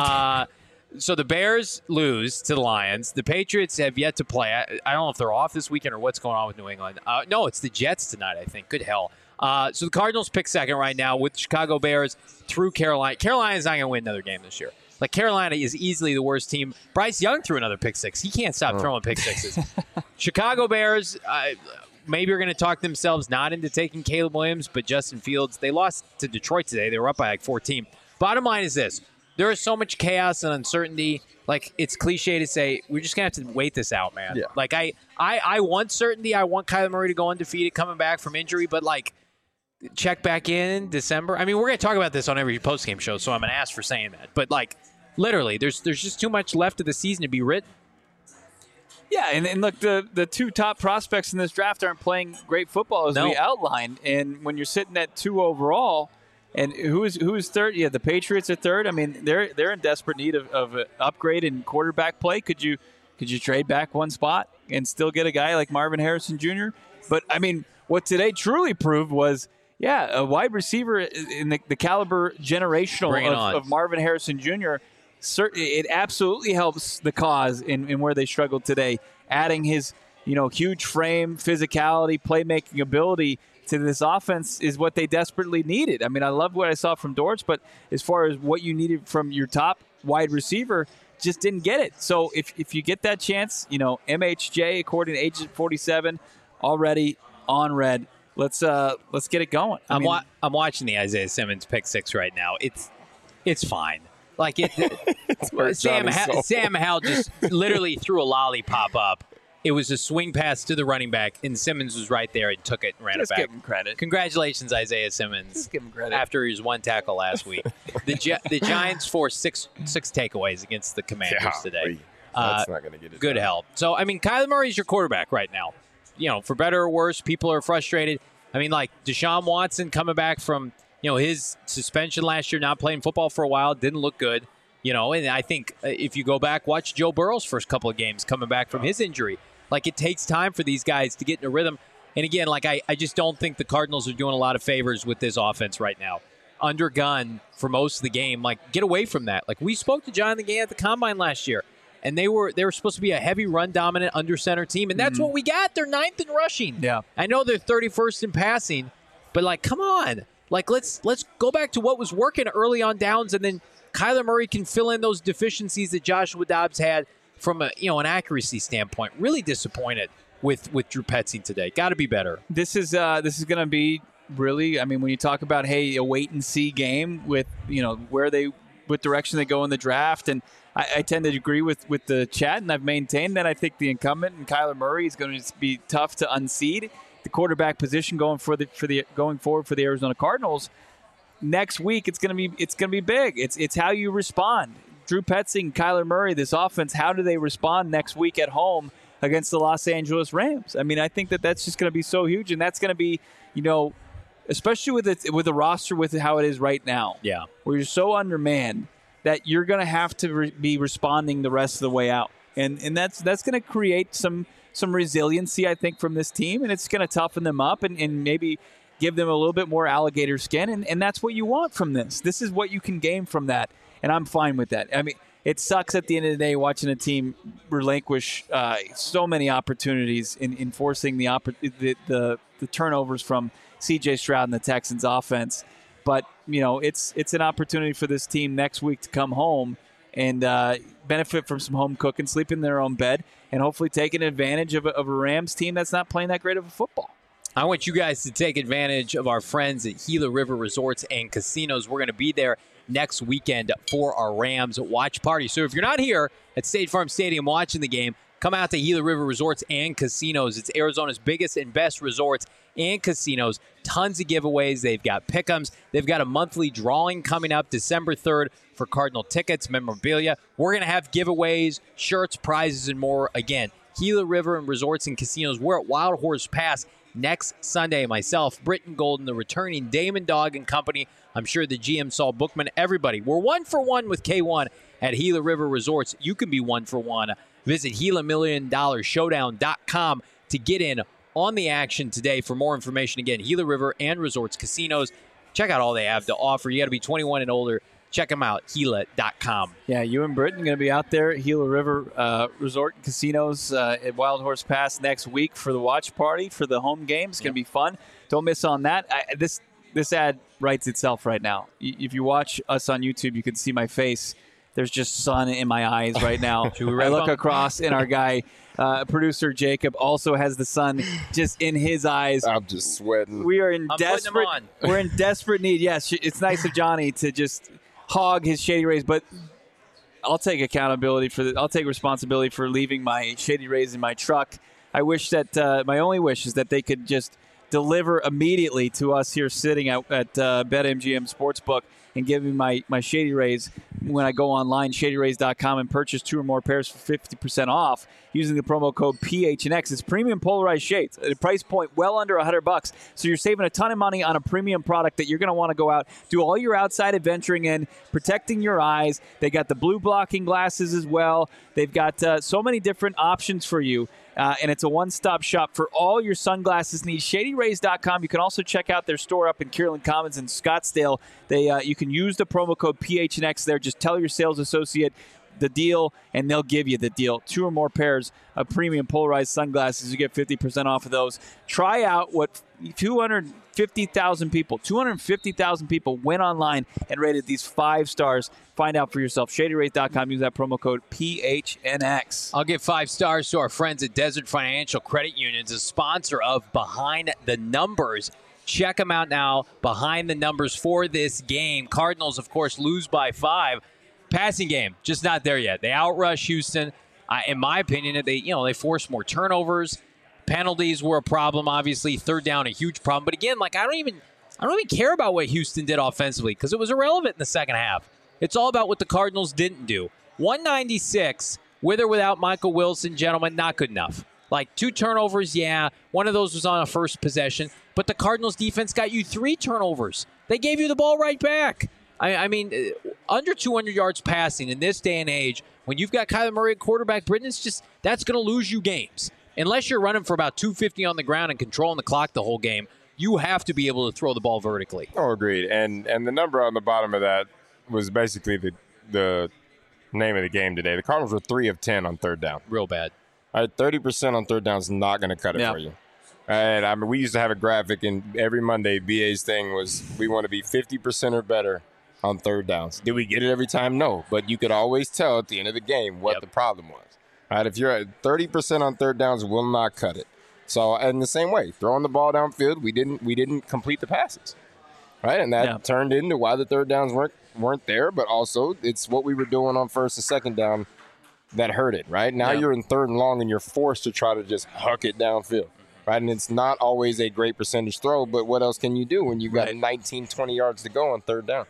So the Bears lose to the Lions. The Patriots have yet to play. I don't know if they're off this weekend or what's going on with New England. No, it's the Jets tonight, I think. Good hell. So the Cardinals pick second right now with the Chicago Bears through Carolina. Carolina's not going to win another game this year. Like, Carolina is easily the worst team. Bryce Young threw another pick 6. He can't stop throwing pick 6s. Chicago Bears, maybe are going to talk themselves not into taking Caleb Williams, but Justin Fields. They lost to Detroit today. They were up by 14. Bottom line is this. There is so much chaos and uncertainty. Like, it's cliche to say, we're just going to have to wait this out, man. Yeah. Like, I want certainty. I want Kyler Murray to go undefeated coming back from injury, but, check back in December. I mean, we're going to talk about this on every postgame show, so I'm an ass for saying that. But, literally, there's just too much left of the season to be written. Yeah, and look, the 2 top prospects in this draft aren't playing great football, as we outlined. And when you're sitting at 2 overall, and who's third? Yeah, the Patriots are third. I mean, they're in desperate need of an upgrade in quarterback play. Could you trade back 1 spot and still get a guy like Marvin Harrison Jr.? But, I mean, what today truly proved was, a wide receiver in the caliber generational of Marvin Harrison Jr., it absolutely helps the cause in where they struggled today, adding his huge frame, physicality, playmaking ability to this offense is what they desperately needed. I mean, I love what I saw from Dortz, but as far as what you needed from your top wide receiver, just didn't get it. So if you get that chance, MHJ, according to Agent 47, already on red. Let's get it going. I'm watching the Isaiah Simmons pick six right now. It's fine. Like Sam Howell just literally threw a lollipop up. It was a swing pass to the running back, and Simmons was right there and took it and ran it back. Just give him credit. Congratulations, Isaiah Simmons. Just give him credit. After his one tackle last week. The Giants forced six takeaways against the Commanders today. That's not going to get it Good done. help. So, I mean, Kyler Murray's your quarterback right now. For better or worse, people are frustrated. I mean, like Deshaun Watson coming back from, his suspension last year, not playing football for a while, didn't look good. And I think if you go back, watch Joe Burrow's first couple of games coming back from his injury. Like, it takes time for these guys to get in a rhythm. And again, like I just don't think the Cardinals are doing a lot of favors with this offense right now. Under gun for most of the game. Like, get away from that. Like, we spoke to Jonathan Gann at the Combine last year, and they were supposed to be a heavy run-dominant under-center team, and that's what we got. They're 9th in rushing. Yeah. I know they're 31st in passing, but, like, come on. Like, let's go back to what was working early on downs, and then Kyler Murray can fill in those deficiencies that Joshua Dobbs had from an accuracy standpoint. Really disappointed with Drew Petzing today. Got to be better. This is going to be really, I mean, when you talk about, hey, a wait and see game with, what direction they go in the draft. And I tend to agree with the chat, and I've maintained that I think the incumbent and Kyler Murray is going to be tough to unseed. The quarterback position going forward for the Arizona Cardinals next week, it's going to be big. It's how you respond. Drew Petzing, Kyler Murray, this offense, how do they respond next week at home against the Los Angeles Rams? I mean, I think that's just going to be so huge, and that's going to be, especially with the roster with how it is right now. Yeah, where you're so undermanned that you're going to have to be responding the rest of the way out, and that's going to create some resiliency, I think, from this team, and it's going to toughen them up and maybe give them a little bit more alligator skin, and that's what you want from this. This is what you can gain from that. And I'm fine with that. I mean, it sucks at the end of the day watching a team relinquish so many opportunities in forcing the turnovers from C.J. Stroud and the Texans offense. But, it's an opportunity for this team next week to come home and benefit from some home cooking, sleep in their own bed, and hopefully taking advantage of a Rams team that's not playing that great of a football. I want you guys to take advantage of our friends at Gila River Resorts and Casinos. We're going to be there next weekend for our Rams watch party. So if you're not here at State Farm Stadium watching the game, come out to Gila River Resorts and Casinos. It's Arizona's biggest and best resorts and casinos. Tons of giveaways. They've got pick'ems. They've got a monthly drawing coming up December 3rd for Cardinal tickets, memorabilia. We're going to have giveaways, shirts, prizes, and more. Again, Gila River and Resorts and Casinos. We're at Wild Horse Pass next Sunday. Myself, Britton Golden, the returning Damon Dog and company. I'm sure the GM, Saul Bookman, everybody. We're 1 for 1 with K1 at Gila River Resorts. You can be 1 for 1. Visit GilaMillionDollarShowdown.com to get in on the action today. For more information, again, Gila River and Resorts Casinos. Check out all they have to offer. You got to be 21 and older. Check them out, Gila.com. Yeah, you and Britton going to be out there at Gila River Resort and Casinos at Wild Horse Pass next week for the watch party, for the home game. It's going to be fun. Don't miss on that. This ad writes itself right now. If you watch us on YouTube, you can see my face. There's just sun in my eyes right now. I look across, and our guy, producer Jacob, also has the sun just in his eyes. I'm just sweating. We are in We're in desperate need. Yes, it's nice of Johnny to just hog his Shady Rays, but I'll take accountability for I'll take responsibility for leaving my Shady Rays in my truck. I wish that my only wish is that they could just deliver immediately to us here sitting at BetMGM Sportsbook and give me my Shady Rays when I go online, ShadyRays.com, and purchase 2 or more pairs for 50% off using the promo code PHNX. It's premium polarized shades at a price point well under $100. So you're saving a ton of money on a premium product that you're going to want to go out, do all your outside adventuring in, protecting your eyes. They got the blue blocking glasses as well. They've got so many different options for you. And it's a one-stop shop for all your sunglasses needs. ShadyRays.com. You can also check out their store up in Kierland Commons in Scottsdale. You can use the promo code PHNX there. Just tell your sales associate the deal, and they'll give you the deal. 2 or more pairs of premium polarized sunglasses. You get 50% off of those. Try out what 250,000 people went online and rated these 5 stars. Find out for yourself. ShadyRays.com. Use that promo code PHNX. I'll give 5 stars to our friends at Desert Financial Credit Union, a sponsor of Behind the Numbers. Check them out now. Behind the Numbers for this game. Cardinals, of course, lose by 5. Passing game, just not there yet. They outrush Houston. In my opinion, they forced more turnovers. Penalties were a problem, obviously. Third down, a huge problem. But again, I don't even care about what Houston did offensively because it was irrelevant in the second half. It's all about what the Cardinals didn't do. 196, with or without Michael Wilson, gentlemen, not good enough. 2 turnovers, yeah. One of those was on a first possession. But the Cardinals defense got you 3 turnovers. They gave you the ball right back. I mean, under 200 yards passing in this day and age, when you've got Kyler Murray at quarterback, Britton, that's going to lose you games. Unless you're running for about 250 on the ground and controlling the clock the whole game, you have to be able to throw the ball vertically. Oh, agreed. And the number on the bottom of that was basically the name of the game today. The Cardinals were 3 of 10 on third down. Real bad. All right, 30% on third down is not going to cut it for you. And I mean, we used to have a graphic, and every Monday, BA's thing was we want to be 50% or better on third downs. Did we get it every time? No. But you could always tell at the end of the game what the problem was. All right, if you're at 30% on third downs, will not cut it. So, in the same way, throwing the ball downfield, we didn't complete the passes. Right? And that turned into why the third downs weren't there, but also it's what we were doing on first and second down that hurt it, right? Now you're in third and long, and you're forced to try to just huck it downfield. Right, and it's not always a great percentage throw, but what else can you do when you've got 19, 20 yards to go on third down?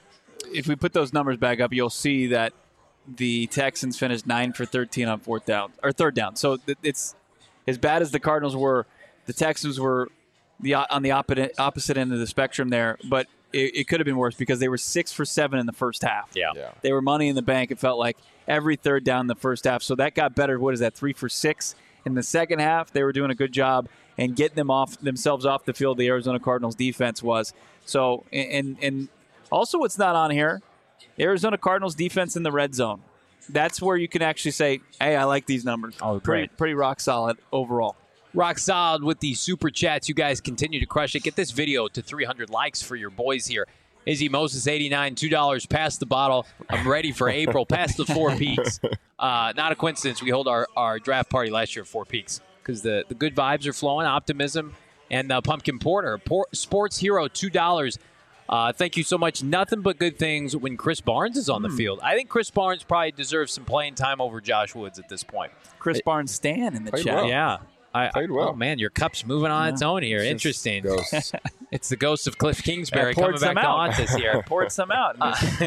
If we put those numbers back up, you'll see that the Texans finished 9 for 13 on third down. So it's as bad as the Cardinals were. The Texans were on the opposite end of the spectrum there, but it could have been worse because they were 6 for 7 in the first half. Yeah. They were money in the bank. It felt like every third down in the first half. So that got better. What is that? 3 for 6 in the second half. They were doing a good job and getting themselves off the field. The Arizona Cardinals defense was so. And also, what's not on here? Arizona Cardinals defense in the red zone. That's where you can actually say, "Hey, I like these numbers." Oh, pretty rock solid overall. Rock solid with the super chats. You guys continue to crush it. Get this video to 300 likes for your boys here. Izzy Moses, 89, $2. Pass the bottle. I'm ready for April. Pass the Four Peaks. Not a coincidence. We hold our draft party last year at Four Peaks because the good vibes are flowing, optimism, and pumpkin porter. Sports Hero, $2. Thank you so much. Nothing but good things when Chris Barnes is on the field. I think Chris Barnes probably deserves some playing time over Josh Woods at this point. Chris Barnes Stan in the chat. Well. Yeah. Played well. Oh, man, your cup's moving on its own here. Interesting. Ghosts. It's the ghost of Cliff Kingsbury coming back to haunt us here. Poured some out.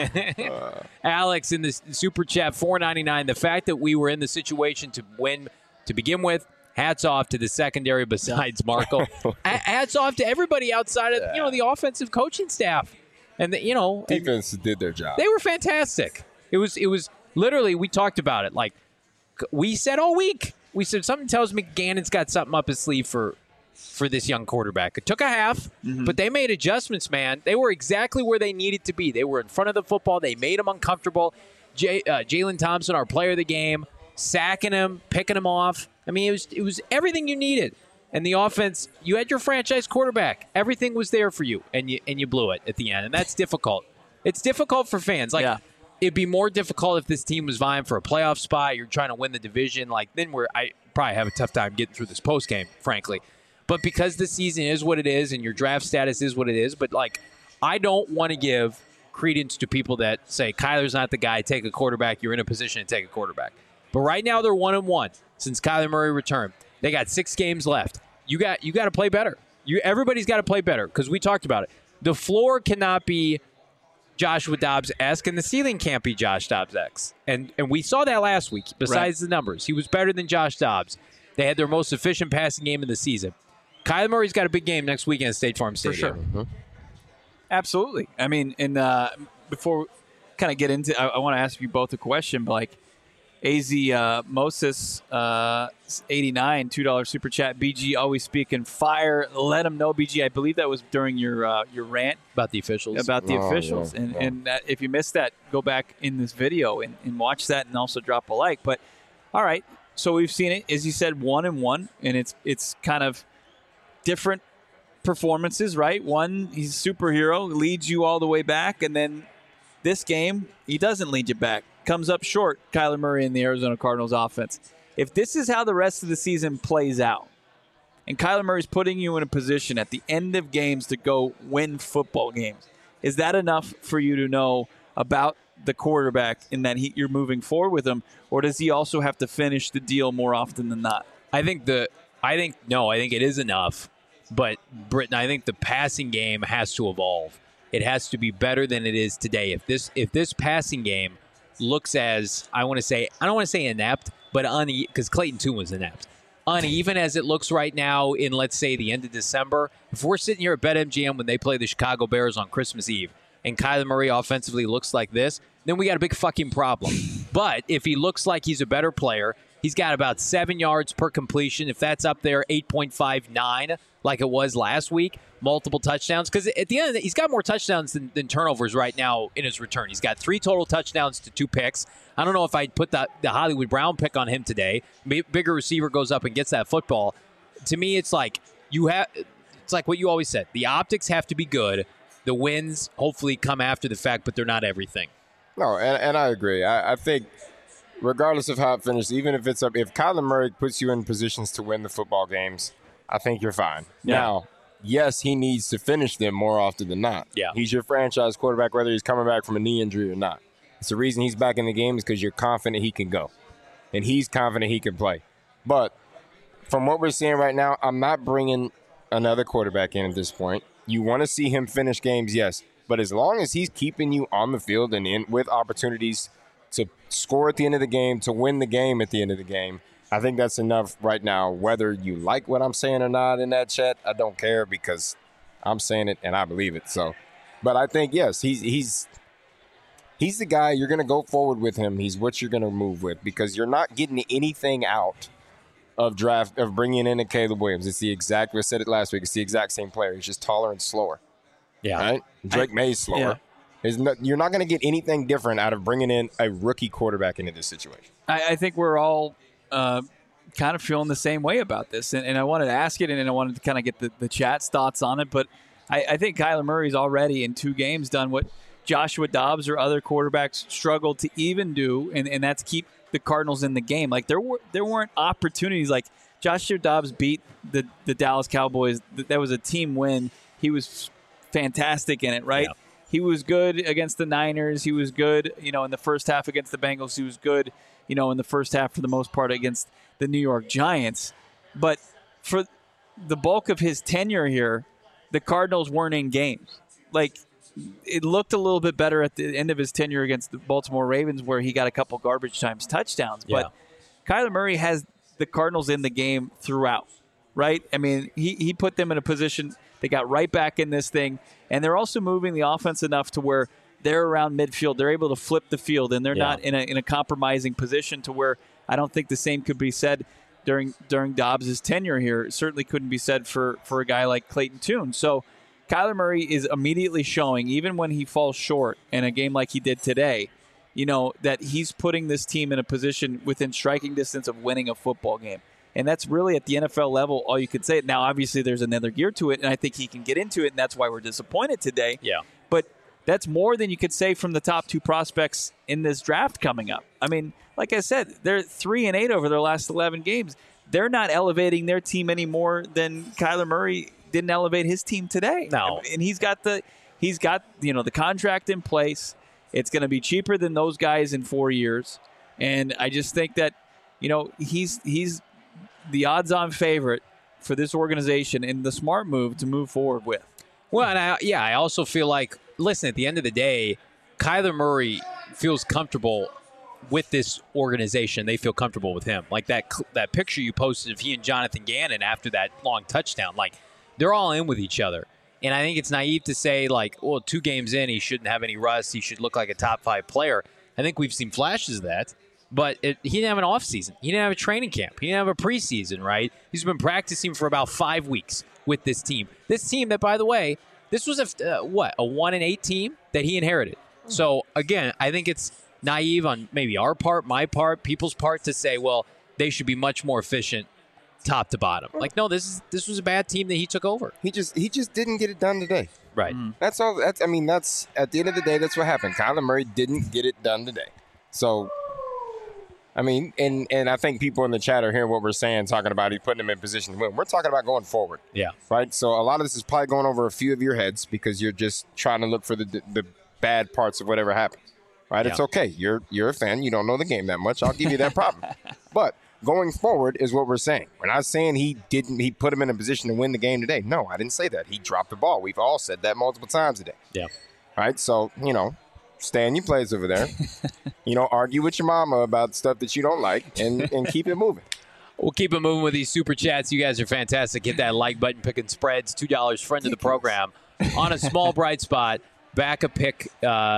Alex in the super chat, $4.99. The fact that we were in the situation to win to begin with, hats off to the secondary besides Marco. Hats off to everybody outside of the offensive coaching staff. And defense did their job. They were fantastic. It was literally, we talked about it. Like we said all week. We said something tells me Gannon's got something up his sleeve for this young quarterback. It took a half, but they made adjustments, man. They were exactly where they needed to be. They were in front of the football. They made him uncomfortable. Jalen Thompson, our player of the game, sacking him, picking him off. I mean, it was everything you needed. And the offense, you had your franchise quarterback. Everything was there for you, and you blew it at the end. And that's difficult. It's difficult for fans. It'd be more difficult if this team was vying for a playoff spot. You're trying to win the division. Then I probably have a tough time getting through this post game, frankly. But because the season is what it is and your draft status is what it is, but I don't want to give credence to people that say Kyler's not the guy. Take a quarterback. You're in a position to take a quarterback. But right now they're 1-1 since Kyler Murray returned. They got 6 games left. You got to play better. Everybody's got to play better because we talked about it. The floor cannot be Joshua Dobbs-esque, and the ceiling can't be Josh Dobbs-esque. And we saw that last week, besides the numbers. He was better than Josh Dobbs. They had their most efficient passing game of the season. Kyler Murray's got a big game next weekend at State Farm Stadium. For sure. Absolutely. I mean, and before we kind of get into I want to ask you both a question, but AZ Moses 89 $2 super chat. BG always speaking fire. Let him know, BG. I believe that was during your rant About the officials. about the officials. Yeah, And if you missed that, go back in this video and watch that, and also drop a like. But all right, so we've seen it, as you said, 1-1, and it's kind of different performances, right? One, he's a superhero, leads you all the way back, and then this game, he doesn't lead you back. Comes up short, Kyler Murray in the Arizona Cardinals offense. If this is how the rest of the season plays out, and Kyler Murray's putting you in a position at the end of games to go win football games, is that enough for you to know about the quarterback in that you're moving forward with him, or does he also have to finish the deal more often than not? I think it is enough. But Britton, I think the passing game has to evolve. It has to be better than it is today. If this passing game looks as I don't want to say inept, but because Clayton Tune was inept, uneven as it looks right now in, let's say, the end of December. If we're sitting here at BetMGM when they play the Chicago Bears on Christmas Eve, and Kyler Murray offensively looks like this, then we got a big fucking problem. But if he looks like he's a better player, he's got about 7 yards per completion. If that's up there, 8.59 like it was last week, multiple touchdowns. Because at the end of the day, he's got more touchdowns than turnovers right now in his return. He's got 3 total touchdowns to 2 picks. I don't know if I'd put the Hollywood Brown pick on him today. Bigger receiver goes up and gets that football. To me, it's like what you always said. The optics have to be good. The wins hopefully come after the fact, but they're not everything. No, and I agree. I think regardless of how it finishes, even if it's up, if Kyler Murray puts you in positions to win the football games, I think you're fine. Yeah. Now, yes, he needs to finish them more often than not. Yeah. He's your franchise quarterback, whether he's coming back from a knee injury or not. It's the reason he's back in the game is because you're confident he can go. And he's confident he can play. But from what we're seeing right now, I'm not bringing another quarterback in at this point. You want to see him finish games, yes. But as long as he's keeping you on the field and with opportunities to score at the end of the game, to win the game at the end of the game, I think that's enough right now. Whether you like what I'm saying or not in that chat, I don't care because I'm saying it and I believe it. So, but I think, yes, he's the guy. You're going to go forward with him. He's what you're going to move with because you're not getting anything out of bringing in a Caleb Williams. It's the exact, we said it last week, it's the exact same player. He's just taller and slower. Yeah. Right? Drake May's slower. Yeah. You're not going to get anything different out of bringing in a rookie quarterback into this situation. I think we're all kind of feeling the same way about this. And I wanted to ask it, and I wanted to kind of get the chat's thoughts on it. But I think Kyler Murray's already in 2 games done what Joshua Dobbs or other quarterbacks struggled to even do, and that's keep the Cardinals in the game. Like there weren't opportunities. Like Joshua Dobbs beat the Dallas Cowboys. That was a team win. He was fantastic in it, right? Yeah. He was good against the Niners. He was good, in the first half against the Bengals. He was good, in the first half for the most part against the New York Giants. But for the bulk of his tenure here, the Cardinals weren't in games. Like, it looked a little bit better at the end of his tenure against the Baltimore Ravens where he got a couple garbage times touchdowns. But Kyler Murray has the Cardinals in the game throughout, right? I mean, he put them in a position. They got right back in this thing. And they're also moving the offense enough to where they're around midfield. They're able to flip the field, and they're not in a compromising position to where I don't think the same could be said during Dobbs' tenure here. It certainly couldn't be said for a guy like Clayton Tune. So Kyler Murray is immediately showing, even when he falls short in a game like he did today, that he's putting this team in a position within striking distance of winning a football game. And that's really at the NFL level all you could say. Now, obviously, there's another gear to it, and I think he can get into it, and that's why we're disappointed today. Yeah. But that's more than you could say from the top 2 prospects in this draft coming up. I mean, like I said, they're 3-8 over their last 11 games. They're not elevating their team any more than Kyler Murray didn't elevate his team today. No. And he's got the contract in place. It's going to be cheaper than those guys in 4 years. And I just think that, he's the odds-on favorite for this organization and the smart move to move forward with. Well, and I also feel like, listen, at the end of the day, Kyler Murray feels comfortable with this organization. They feel comfortable with him. Like that picture you posted of he and Jonathan Gannon after that long touchdown, like they're all in with each other. And I think it's naive to say, like, well, 2 games in, he shouldn't have any rust. He should look like a top 5 player. I think we've seen flashes of that. But he didn't have an off season. He didn't have a training camp. He didn't have a preseason, right? He's been practicing for about 5 weeks with this team. This team that, by the way, this was a 1-8 team that he inherited. So, again, I think it's naive on maybe our part, my part, people's part to say, well, they should be much more efficient top to bottom. Like, no, this was a bad team that he took over. He just didn't get it done today. Right. That's all. That's at the end of the day, that's what happened. Kyler Murray didn't get it done today. So, I mean, and I think people in the chat are hearing what we're saying, talking about he putting him in position to win. We're talking about going forward. Yeah. Right? So a lot of this is probably going over a few of your heads because you're just trying to look for the bad parts of whatever happened. Right? Yeah. It's okay. You're a fan. You don't know the game that much. I'll give you that problem. But going forward is what we're saying. We're not saying he put him in a position to win the game today. No, I didn't say that. He dropped the ball. We've all said that multiple times today. Yeah. Right? So, stay in your place over there. Argue with your mama about stuff that you don't like and keep it moving. We'll keep it moving with these super chats. You guys are fantastic. Hit that like button, picking spreads, $2, friend of the program. On a small bright spot, back a pick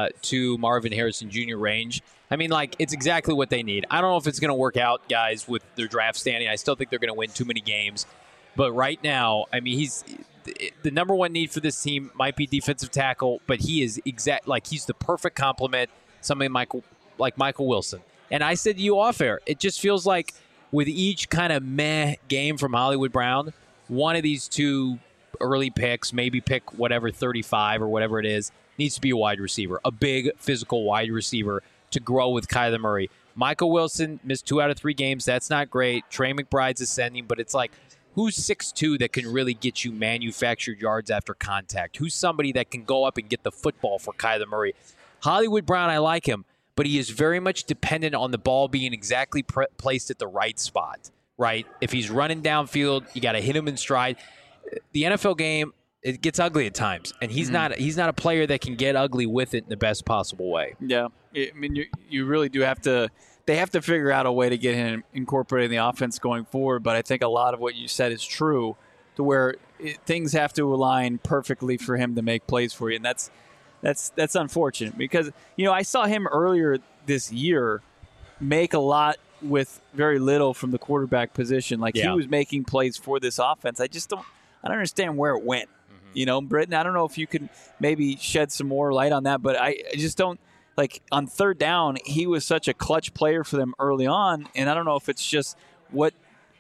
to Marvin Harrison Jr. range. I mean, it's exactly what they need. I don't know if it's going to work out, guys, with their draft standing. I still think they're going to win too many games. But right now, I mean, he's the number one need for this team might be defensive tackle, but he is he's the perfect complement, somebody like Michael Wilson. And I said to you off air, it just feels like with each kind of meh game from Hollywood Brown, one of these two early picks, maybe pick whatever 35 or whatever it is, needs to be a wide receiver, a big physical wide receiver to grow with Kyler Murray. Michael Wilson missed 2 out of 3 games. That's not great. Trey McBride's ascending, but it's like, who's 6'2" that can really get you manufactured yards after contact? Who's somebody that can go up and get the football for Kyler Murray? Hollywood Brown, I like him, but he is very much dependent on the ball being exactly placed at the right spot, right? If he's running downfield, you got to hit him in stride. The NFL game, it gets ugly at times, and he's not a player that can get ugly with it in the best possible way. Yeah, I mean, you really do have to. They have to figure out a way to get him incorporated in the offense going forward. But I think a lot of what you said is true, to where things have to align perfectly for him to make plays for you, and that's unfortunate because I saw him earlier this year make a lot with very little from the quarterback position. He was making plays for this offense. I don't understand where it went. Britton, I don't know if you can maybe shed some more light on that, but I just don't. On third down, he was such a clutch player for them early on, and I don't know if it's just what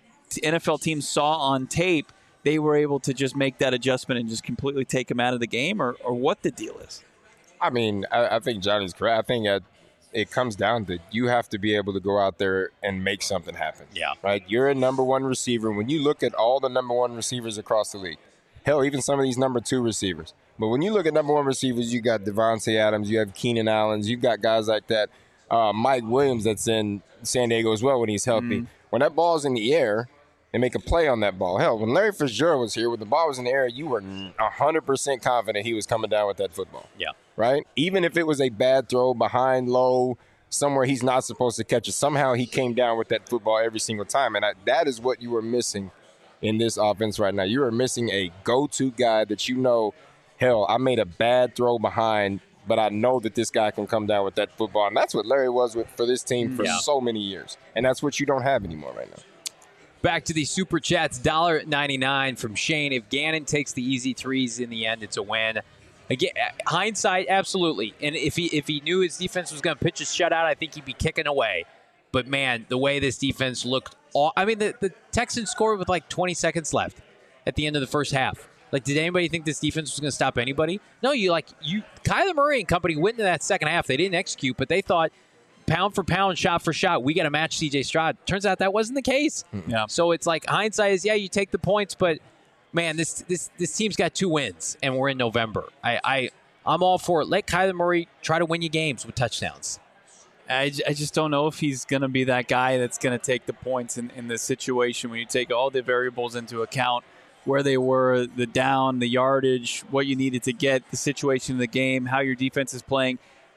NFL teams saw on tape, they were able to just make that adjustment and just completely take him out of the game, or what the deal is. I mean, I think Johnny's correct. I think it comes down to you have to be able to go out there and make something happen. Yeah. Right? You're a number one receiver. When you look at all the number one receivers across the league, hell, even some of these number 2 receivers. But when you look at number 1 receivers, you got Devontae Adams, you have Keenan Allen, you've got guys like that. Mike Williams that's in San Diego as well when he's healthy. When that ball's in the air, they make a play on that ball. Hell, when Larry Fitzgerald was here, when the ball was in the air, you were 100% confident he was coming down with that football. Yeah. Right? Even if it was a bad throw behind low, somewhere he's not supposed to catch it, somehow he came down with that football every single time. And that is what you were missing in this offense right now. You are missing a go-to guy that hell, I made a bad throw behind, but I know that this guy can come down with that football. And that's what Larry was for this team for so many years. And that's what you don't have anymore right now. Back to the super chats, $1.99 from Shane. If Gannon takes the easy threes in the end, it's a win. Again, hindsight, absolutely. And if he knew his defense was going to pitch a shutout, I think he'd be kicking away. But, man, the way this defense looked – the Texans scored with 20 seconds left at the end of the first half. Did anybody think this defense was going to stop anybody? No, Kyler Murray and company went into that second half. They didn't execute, but they thought pound for pound, shot for shot, we got to match C.J. Stroud. Turns out that wasn't the case. Yeah. So it's hindsight is, you take the points, but, man, this team's got 2 wins, and we're in November. I'm all for it. Let Kyler Murray try to win you games with touchdowns. I just don't know if he's going to be that guy that's going to take the points in this situation when you take all the variables into account, where they were, the down, the yardage, what you needed to get, the situation of the game, how your defense is playing.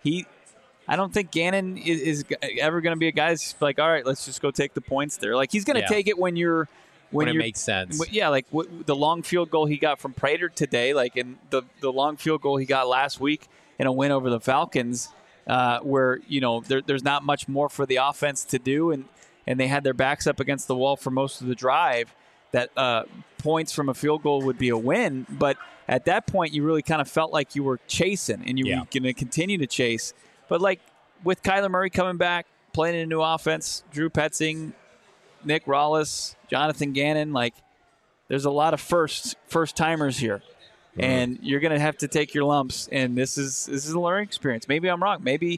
I don't think Gannon is ever going to be a guy that's all right, let's just go take the points there. He's going to take it when it makes sense. The long field goal he got from Prater today, and the long field goal he got last week in a win over the Falcons. where there's not much more for the offense to do, and they had their backs up against the wall for most of the drive. That points from a field goal would be a win, but at that point you really kind of felt like you were chasing, and you were going to continue to chase. But like with Kyler Murray coming back, playing in a new offense, Drew Petzing, Nick Rallis, Jonathan Gannon, like there's a lot of first timers here. And you're going to have to take your lumps, and this is a learning experience. Maybe I'm wrong. Maybe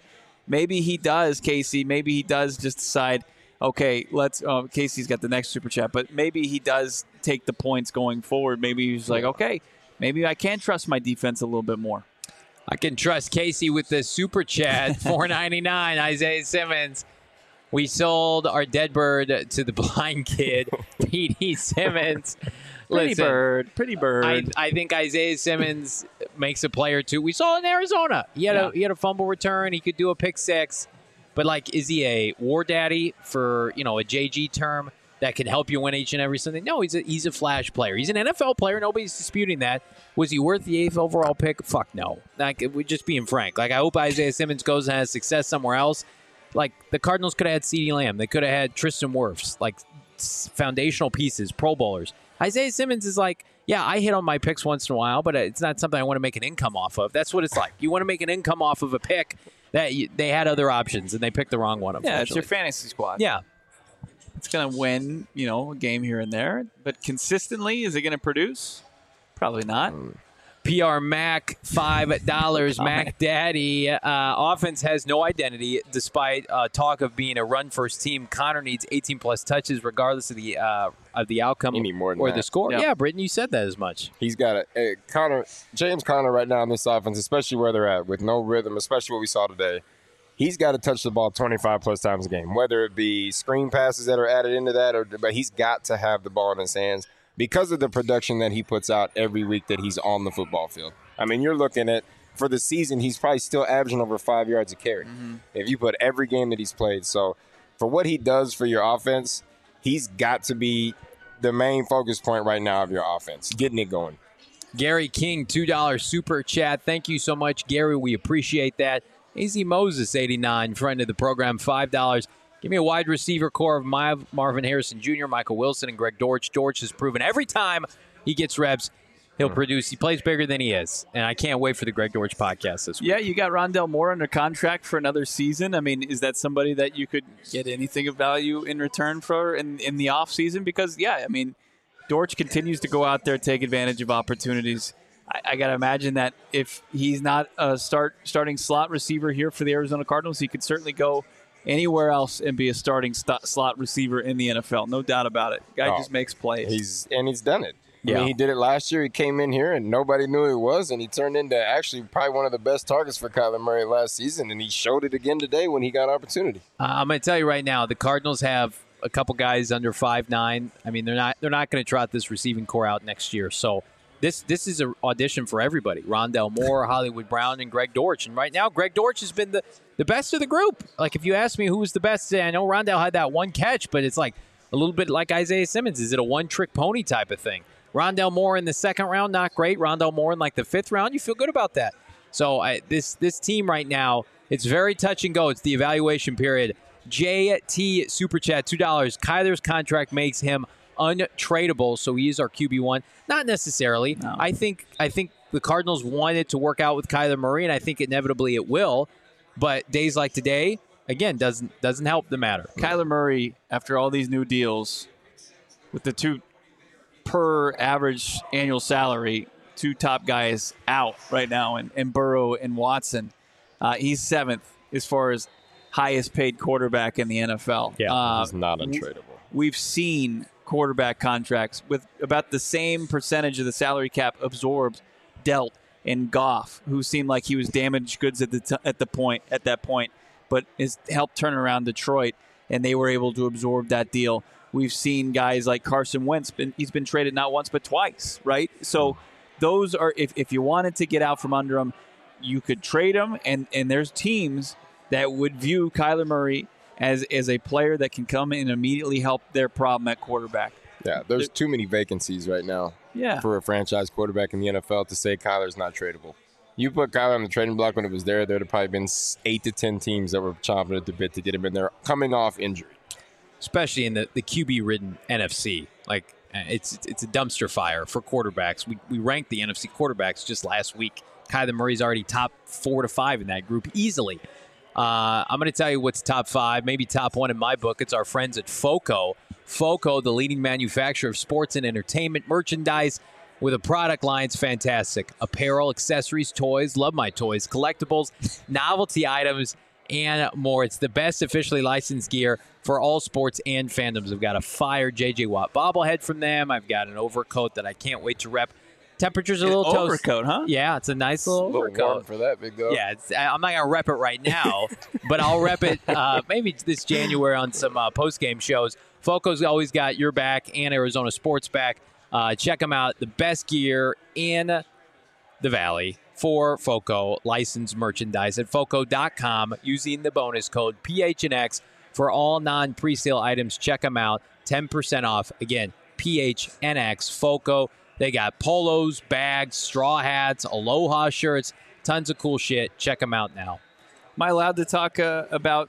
he does, Casey. Maybe he does just decide, okay, Casey's got the next super chat, but maybe he does take the points going forward. Maybe he's like, okay, maybe I can trust my defense a little bit more. I can trust Casey with the super chat, $4.99, Isaiah Simmons. We sold our dead bird to the blind kid, P.D. Simmons. Pretty bird. I think Isaiah Simmons makes a play or two. We saw it in Arizona. He had a fumble return. He could do a pick six. But, like, is he a war daddy for, a JG term that can help you win each and every Sunday? No, he's a flash player. He's an NFL player. Nobody's disputing that. Was he worth the 8th overall pick? Fuck no. Like, we're just being frank. Like, I hope Isaiah Simmons goes and has success somewhere else. Like, the Cardinals could have had CeeDee Lamb. They could have had Tristan Wirfs, like foundational pieces, Pro Bowlers. Isaiah Simmons is like, yeah, I hit on my picks once in a while, but it's not something I want to make an income off of. That's what it's like. You want to make an income off of a pick that they had other options, and they picked the wrong one, unfortunately. Yeah, it's your fantasy squad. Yeah. It's going to win, a game here and there. But consistently, is it going to produce? Probably not. PR Mac, $5. Mac Daddy. Offense has no identity despite talk of being a run-first team. Connor needs 18-plus touches regardless of the outcome or the score. Yep. Yeah, Britton, you said that as much. He's got James Conner right now in this offense, especially where they're at, with no rhythm, especially what we saw today. He's got to touch the ball 25-plus times a game, whether it be screen passes that are added into that, but he's got to have the ball in his hands, because of the production that he puts out every week that he's on the football field. I mean, you're looking at, for the season, he's probably still averaging over 5 yards a carry if you put every game that he's played. So for what he does for your offense, he's got to be the main focus point right now of your offense, getting it going. Gary King, $2 super chat. Thank you so much, Gary. We appreciate that. AZ Moses, 89, friend of the program, $5. Give me a wide receiver core of Marvin Harrison Jr., Michael Wilson, and Greg Dortch. Dortch has proven every time he gets reps, he'll produce. He plays bigger than he is. And I can't wait for the Greg Dortch podcast this week. Yeah, you got Rondell Moore under contract for another season. I mean, is that somebody that you could get anything of value in return for in the offseason? Because, Dortch continues to go out there, take advantage of opportunities. I got to imagine that if he's not a starting slot receiver here for the Arizona Cardinals, he could certainly go anywhere else and be a starting slot receiver in the NFL. No doubt about it. Guy just makes plays. He's done it. Yeah. I mean, he did it last year. He came in here and nobody knew who he was, and he turned into actually probably one of the best targets for Kyler Murray last season, and he showed it again today when he got opportunity. I'm going to tell you right now, the Cardinals have a couple guys under 5'9". I mean, they're not going to trot this receiving core out next year. So this is an audition for everybody. Rondell Moore, Hollywood Brown, and Greg Dortch. And right now, Greg Dortch has been the best of the group. Like, if you ask me who was the best, I know Rondell had that one catch, but it's like a little bit like Isaiah Simmons. Is it a one-trick pony type of thing? Rondell Moore in the second round, not great. Rondell Moore in like the fifth round, you feel good about that. So this team right now, it's very touch and go. It's the evaluation period. JT Super Chat, $2. Kyler's contract makes him untradeable, so he is our QB1. Not necessarily. No. I think the Cardinals wanted to work out with Kyler Murray, and I think inevitably it will. But days like today, again, doesn't help the matter. Kyler Murray, after all these new deals, with the two per average annual salary, two top guys out right now, and Burrow and Watson, he's seventh as far as highest paid quarterback in the NFL. Yeah, he's not untradeable. We've seen quarterback contracts with about the same percentage of the salary cap absorbed dealt in Goff, who seemed like he was damaged goods at that point, but has helped turn around Detroit, and they were able to absorb that deal. We've seen guys like Carson Wentz. He's been traded not once but twice, right? So those are, if you wanted to get out from under them, you could trade them, and there's teams that would view Kyler Murray as a player that can come in and immediately help their problem at quarterback. Yeah, there's too many vacancies right now for a franchise quarterback in the NFL to say Kyler's not tradable. You put Kyler on the trading block when it was there. There'd have probably been 8 to 10 teams that were chomping at the bit to get him in there, coming off injury. Especially in the QB-ridden NFC. Like, it's a dumpster fire for quarterbacks. We ranked the NFC quarterbacks just last week. Kyler Murray's already top 4 to 5 in that group easily. I'm going to tell you what's top 5, maybe top 1 in my book. It's our friends at FOCO. FOCO, the leading manufacturer of sports and entertainment merchandise, with a product line. It's fantastic. Apparel, accessories, toys, love my toys, collectibles, novelty items, and more. It's the best officially licensed gear for all sports and fandoms. I've got a fire J.J. Watt bobblehead from them. I've got an overcoat that I can't wait to rep. Temperature's a little toasty. Overcoat, huh? Yeah, it's a nice little overcoat. Warm for that, big dog. Yeah, I'm not going to rep it right now, but I'll rep it maybe this January on some post-game shows. FOCO's always got your back and Arizona Sports back. Check them out. The best gear in the Valley for FOCO licensed merchandise at FOCO.com using the bonus code PHNX for all non-presale items. Check them out. 10% off. Again, PHNX, FOCO. They got polos, bags, straw hats, Aloha shirts, tons of cool shit. Check them out now. Am I allowed to talk about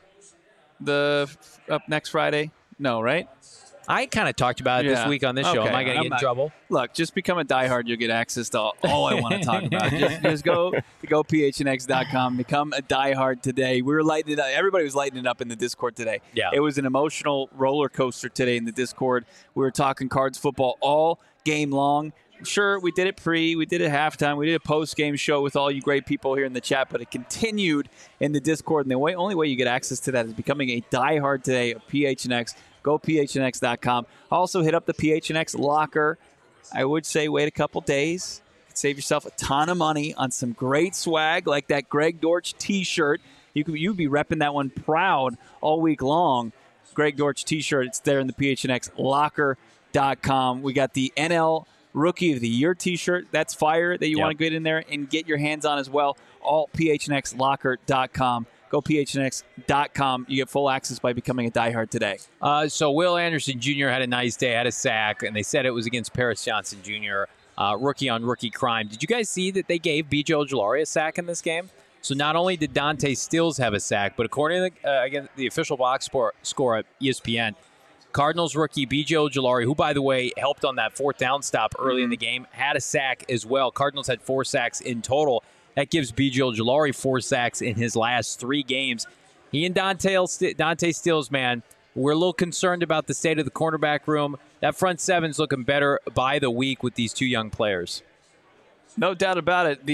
the up next Friday? No, right? I kind of talked about it this week on this show. Okay. Am I going to get in trouble? Look, just become a diehard. You'll get access to all I want to talk about. Just go phnx.com. Become a diehard today. We were lighting it up. Everybody was lighting it up in the Discord today. Yeah. It was an emotional roller coaster today in the Discord. We were talking Cards football all game long. Sure, we did it we did it halftime, we did a post-game show with all you great people here in the chat, but it continued in the Discord, and the only way you get access to that is becoming a diehard today of PHNX. Go phnx.com. Also hit up the PHNX locker. I would say wait a couple days. Save yourself a ton of money on some great swag like that Greg Dortch t-shirt. You'd be repping that one proud all week long. Greg Dortch t-shirt, it's there in the PHNX locker.com. We got the NL Rookie of the Year t-shirt. That's fire that you want to get in there and get your hands on as well. All phnxlocker.com. Go phnx.com. You get full access by becoming a diehard today. So Will Anderson Jr. had a nice day, had a sack, and they said it was against Paris Johnson Jr., rookie-on-rookie crime. Did you guys see that they gave B.J. Ojulari a sack in this game? So not only did Dante Stills have a sack, but according to again, the official box score at ESPN, Cardinals rookie B.J. Ojulari, who, by the way, helped on that fourth down stop early in the game, had a sack as well. Cardinals had 4 sacks in total. That gives B.J. Ojulari 4 sacks in his last 3 games. He and Dante Stills, man, we're a little concerned about the state of the cornerback room. That front seven's looking better by the week with these 2 young players. No doubt about it.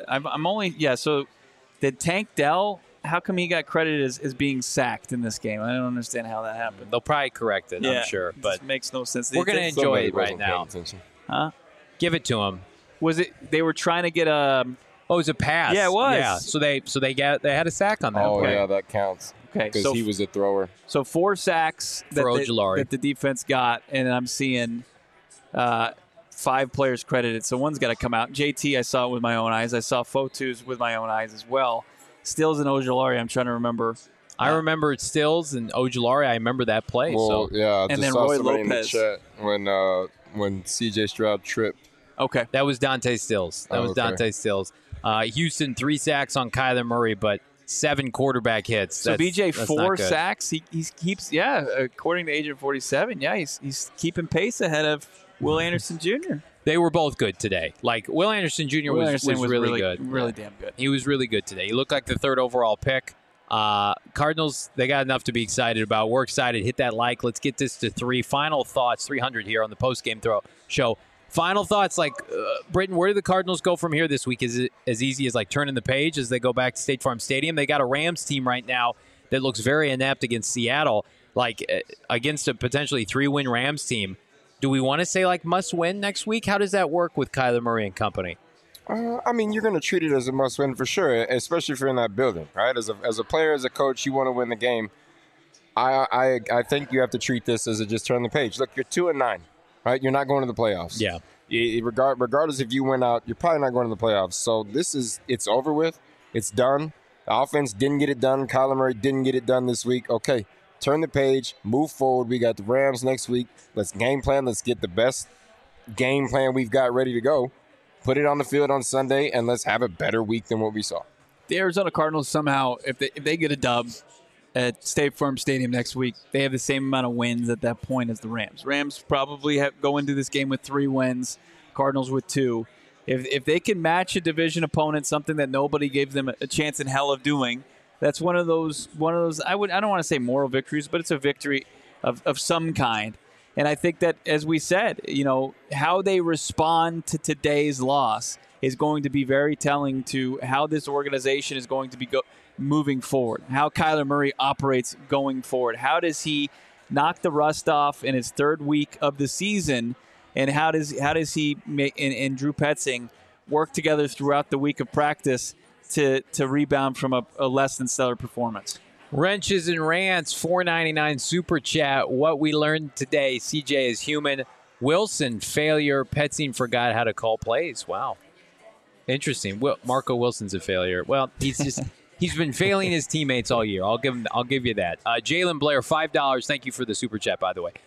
So did Tank Dell, how come he got credited as being sacked in this game? I don't understand how that happened. They'll probably correct it, I'm sure. But it makes no sense. We're going to enjoy it right now. Huh? Give it to him. Was it they were trying to get a... Oh, it was a pass. Yeah, it was. Yeah, so they had a sack on that. Oh, play. yeah, that counts. Okay, Because he was a thrower. So 4 sacks that the defense got, and I'm seeing 5 players credited. So one's got to come out. JT, I saw it with my own eyes. I saw Fotu's with my own eyes as well. Stills and Ojulari, I'm trying to remember. I remember Stills and Ojulari. I remember that play. Well, yeah, I just saw Roy somebody Lopez. in the chat when C.J. Stroud tripped. Okay. That was Dante Stills. Dante Stills. Houston 3 sacks on Kyler Murray, but 7 quarterback hits. So BJ 4 sacks. He keeps according to Agent 47. Yeah, he's keeping pace ahead of Will Anderson Jr. They were both good today. Like Will Anderson Jr. was really good. Really damn good. He was really good today. He looked like the 3rd overall pick. Cardinals, they got enough to be excited about. We're excited. Hit that like. Let's get this to 3. Final thoughts, 300 here on the post-game show. Final thoughts, Britton, where do the Cardinals go from here this week? Is it as easy as turning the page as they go back to State Farm Stadium? They got a Rams team right now that looks very inept against Seattle, against a potentially 3-win Rams team. Do we want to say must win next week? How does that work with Kyler Murray and company? I mean, you're going to treat it as a must win for sure, especially if you're in that building, right? As a player, as a coach, you want to win the game. I think you have to treat this as just turn the page. Look, you're 2-9. Right, you're not going to the playoffs. Yeah. Regardless if you win out, you're probably not going to the playoffs. So it's over with. It's done. The offense didn't get it done. Kyler Murray didn't get it done this week. Okay, turn the page, move forward. We got the Rams next week. Let's game plan. Let's get the best game plan we've got ready to go. put it on the field on Sunday, and let's have a better week than what we saw. The Arizona Cardinals somehow, if they get a dub at State Farm Stadium next week, they have the same amount of wins at that point as the Rams. Rams probably go into this game with 3 wins, Cardinals with 2. If they can match a division opponent, something that nobody gave them a chance in hell of doing, that's one of those. I don't want to say moral victories, but it's a victory of some kind. And I think that, as we said, how they respond to today's loss is going to be very telling to how this organization is going to be moving forward, how Kyler Murray operates going forward. How does he knock the rust off in his 3rd week of the season, and how does he and Drew Petzing work together throughout the week of practice to rebound from a less than stellar performance? Wrenches and Rants, $4.99 super chat. What we learned today: CJ is human. Wilson, failure. Petzing forgot how to call plays. Wow. Interesting. Marco Wilson's a failure. Well, he's been failing his teammates all year. I'll give you that. Jalen Blair, $5. Thank you for the super chat, by the way.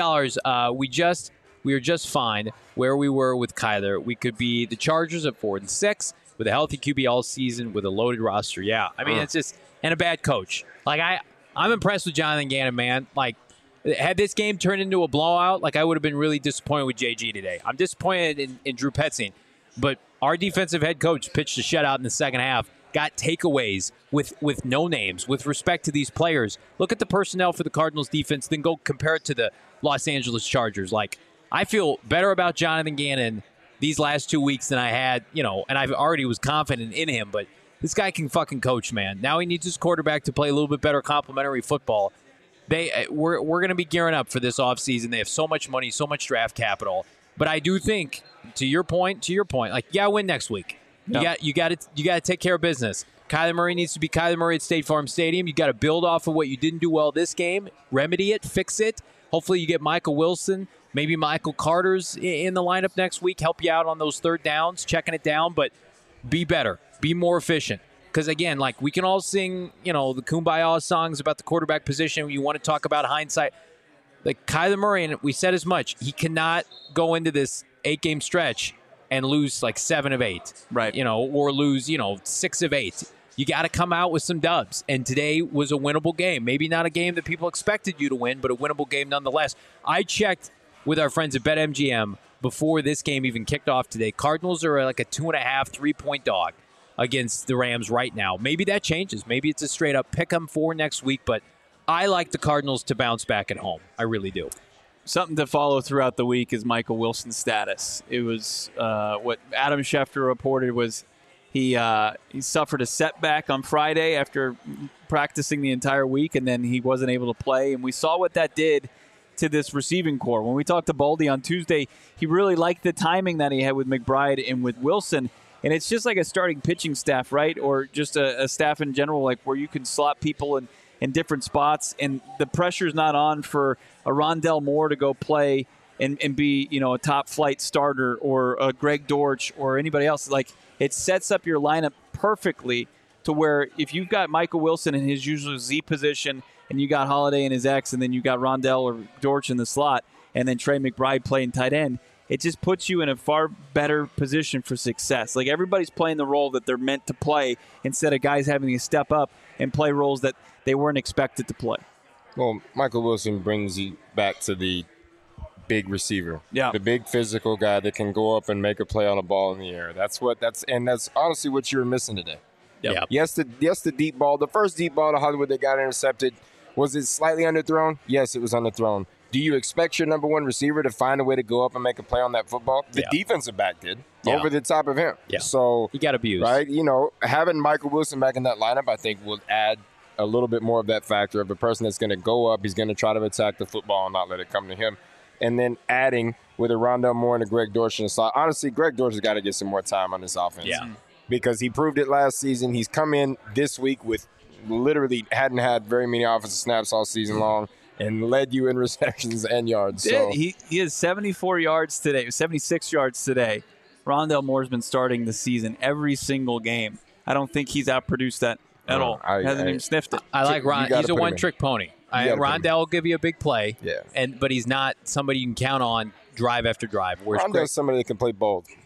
$5. We are just fine where we were with Kyler. We could be the Chargers at 4-6 with a healthy QB all season with a loaded roster. Yeah, I mean it's just and a bad coach. Like I'm impressed with Jonathan Gannon, man. Like, had this game turned into a blowout, like I would have been really disappointed with JG today. I'm disappointed in Drew Petzing, but our defensive head coach pitched a shutout in the second half. Got takeaways with no names with respect to these players. Look at the personnel for the Cardinals defense, then go compare it to the Los Angeles Chargers. Like, I feel better about Jonathan Gannon these last 2 weeks than I had, and I already was confident in him, but this guy can fucking coach, man. Now he needs his quarterback to play a little bit better complementary football. We're going to be gearing up for this offseason. They have so much money, so much draft capital. But I do think, to your point, like, win next week. Yep. You got to take care of business. Kyler Murray needs to be Kyler Murray at State Farm Stadium. You got to build off of what you didn't do well this game, remedy it, fix it. Hopefully you get Michael Wilson, maybe Michael Carter's in the lineup next week, help you out on those 3rd downs, checking it down, but be better, be more efficient. Because, again, like, we can all sing, the Kumbaya songs about the quarterback position. You want to talk about hindsight. Like, Kyler Murray, and we said as much, he cannot go into this 8-game stretch and lose like 7 of 8, right? Or lose 6 of 8. You got to come out with some dubs. And today was a winnable game. Maybe not a game that people expected you to win, but a winnable game nonetheless. I checked with our friends at BetMGM before this game even kicked off today. Cardinals are like a 2.5, 3-point dog against the Rams right now. Maybe that changes. Maybe it's a straight up pick 'em for next week. But I like the Cardinals to bounce back at home. I really do. Something to follow throughout the week is Michael Wilson's status. It was what Adam Schefter reported was he suffered a setback on Friday after practicing the entire week, and then he wasn't able to play. And we saw what that did to this receiving core. When we talked to Baldy on Tuesday, he really liked the timing that he had with McBride and with Wilson. And it's just like a starting pitching staff, right? Or just a staff in general, like where you can slot people in different spots, and the pressure's not on for a Rondell Moore to go play and be, a top flight starter, or a Greg Dortch or anybody else. Like, it sets up your lineup perfectly to where if you've got Michael Wilson in his usual Z position, and you got Holiday in his X, and then you got Rondell or Dortch in the slot, and then Trey McBride playing tight end, it just puts you in a far better position for success. Like, everybody's playing the role that they're meant to play instead of guys having to step up and play roles that they weren't expected to play. Well, Michael Wilson brings you back to the big receiver. Yeah. The big physical guy that can go up and make a play on a ball in the air. That's honestly what you were missing today. Yep. Yes, the deep ball. The first deep ball to Hollywood that got intercepted, was it slightly underthrown? Yes, it was underthrown. Do you expect your number one receiver to find a way to go up and make a play on that football? The defensive back did over the top of him. Yeah. So he got abused. Right? Having Michael Wilson back in that lineup, I think, will add a little bit more of that factor of a person that's going to go up. He's going to try to attack the football and not let it come to him. And then adding with a Rondell Moore and a Greg Dortch in the slot. Honestly, Greg Dortch has got to get some more time on this offense. Yeah. Because he proved it last season. He's come in this week with literally hadn't had very many offensive snaps all season long and led you in receptions and yards. So he has 74 yards today, 76 yards today. Rondell Moore's been starting the season every single game. I don't think he's outproduced that at all. Hasn't even sniffed it. I like Ron. He's a one-trick pony. Rondell will give you a big play, but he's not somebody you can count on drive after drive. Rondell's somebody that can play both.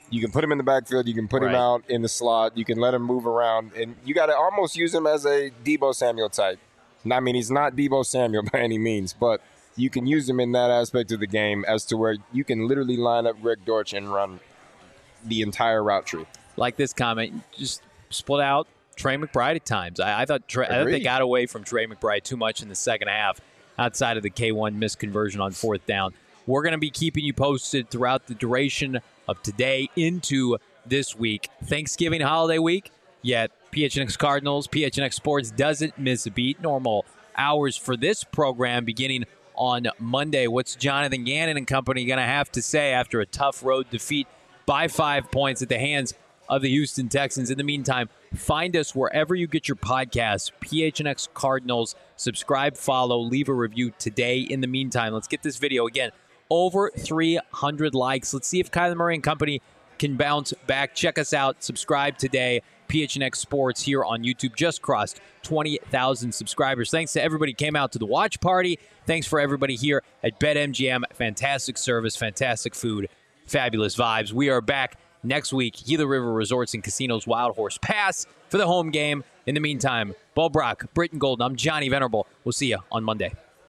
You can put him in the backfield. You can put him Right. out in the slot. You can let him move around. And you got to almost use him as a Debo Samuel type. I mean, he's not Debo Samuel by any means, but you can use him in that aspect of the game as to where you can literally line up Greg Dortch and run the entire route tree. Like this comment, just split out Trey McBride at times. I thought they Agreed. got away from Trey McBride too much in the second half outside of the K1 missed conversion on fourth down. We're going to be keeping you posted throughout the duration of today into this week. Thanksgiving holiday week, yet PHNX Cardinals, PHNX Sports doesn't miss a beat. Normal hours for this program beginning on Monday. What's Jonathan Gannon and company going to have to say after a tough road defeat by 5 points at the hands of the Houston Texans? In the meantime, find us wherever you get your podcasts, PHNX Cardinals. Subscribe, follow, leave a review today. In the meantime, let's get this video again. Over 300 likes. Let's see if Kyler Murray and company can bounce back. Check us out. Subscribe today. PHNX Sports here on YouTube just crossed 20,000 subscribers. Thanks to everybody who came out to the watch party. Thanks for everybody here at BetMGM. Fantastic service, fantastic food, fabulous vibes. We are back next week. Gila River Resorts and Casinos Wild Horse Pass for the home game. In the meantime, Bo Brock, Britton Golden, I'm Johnny Venerable. We'll see you on Monday.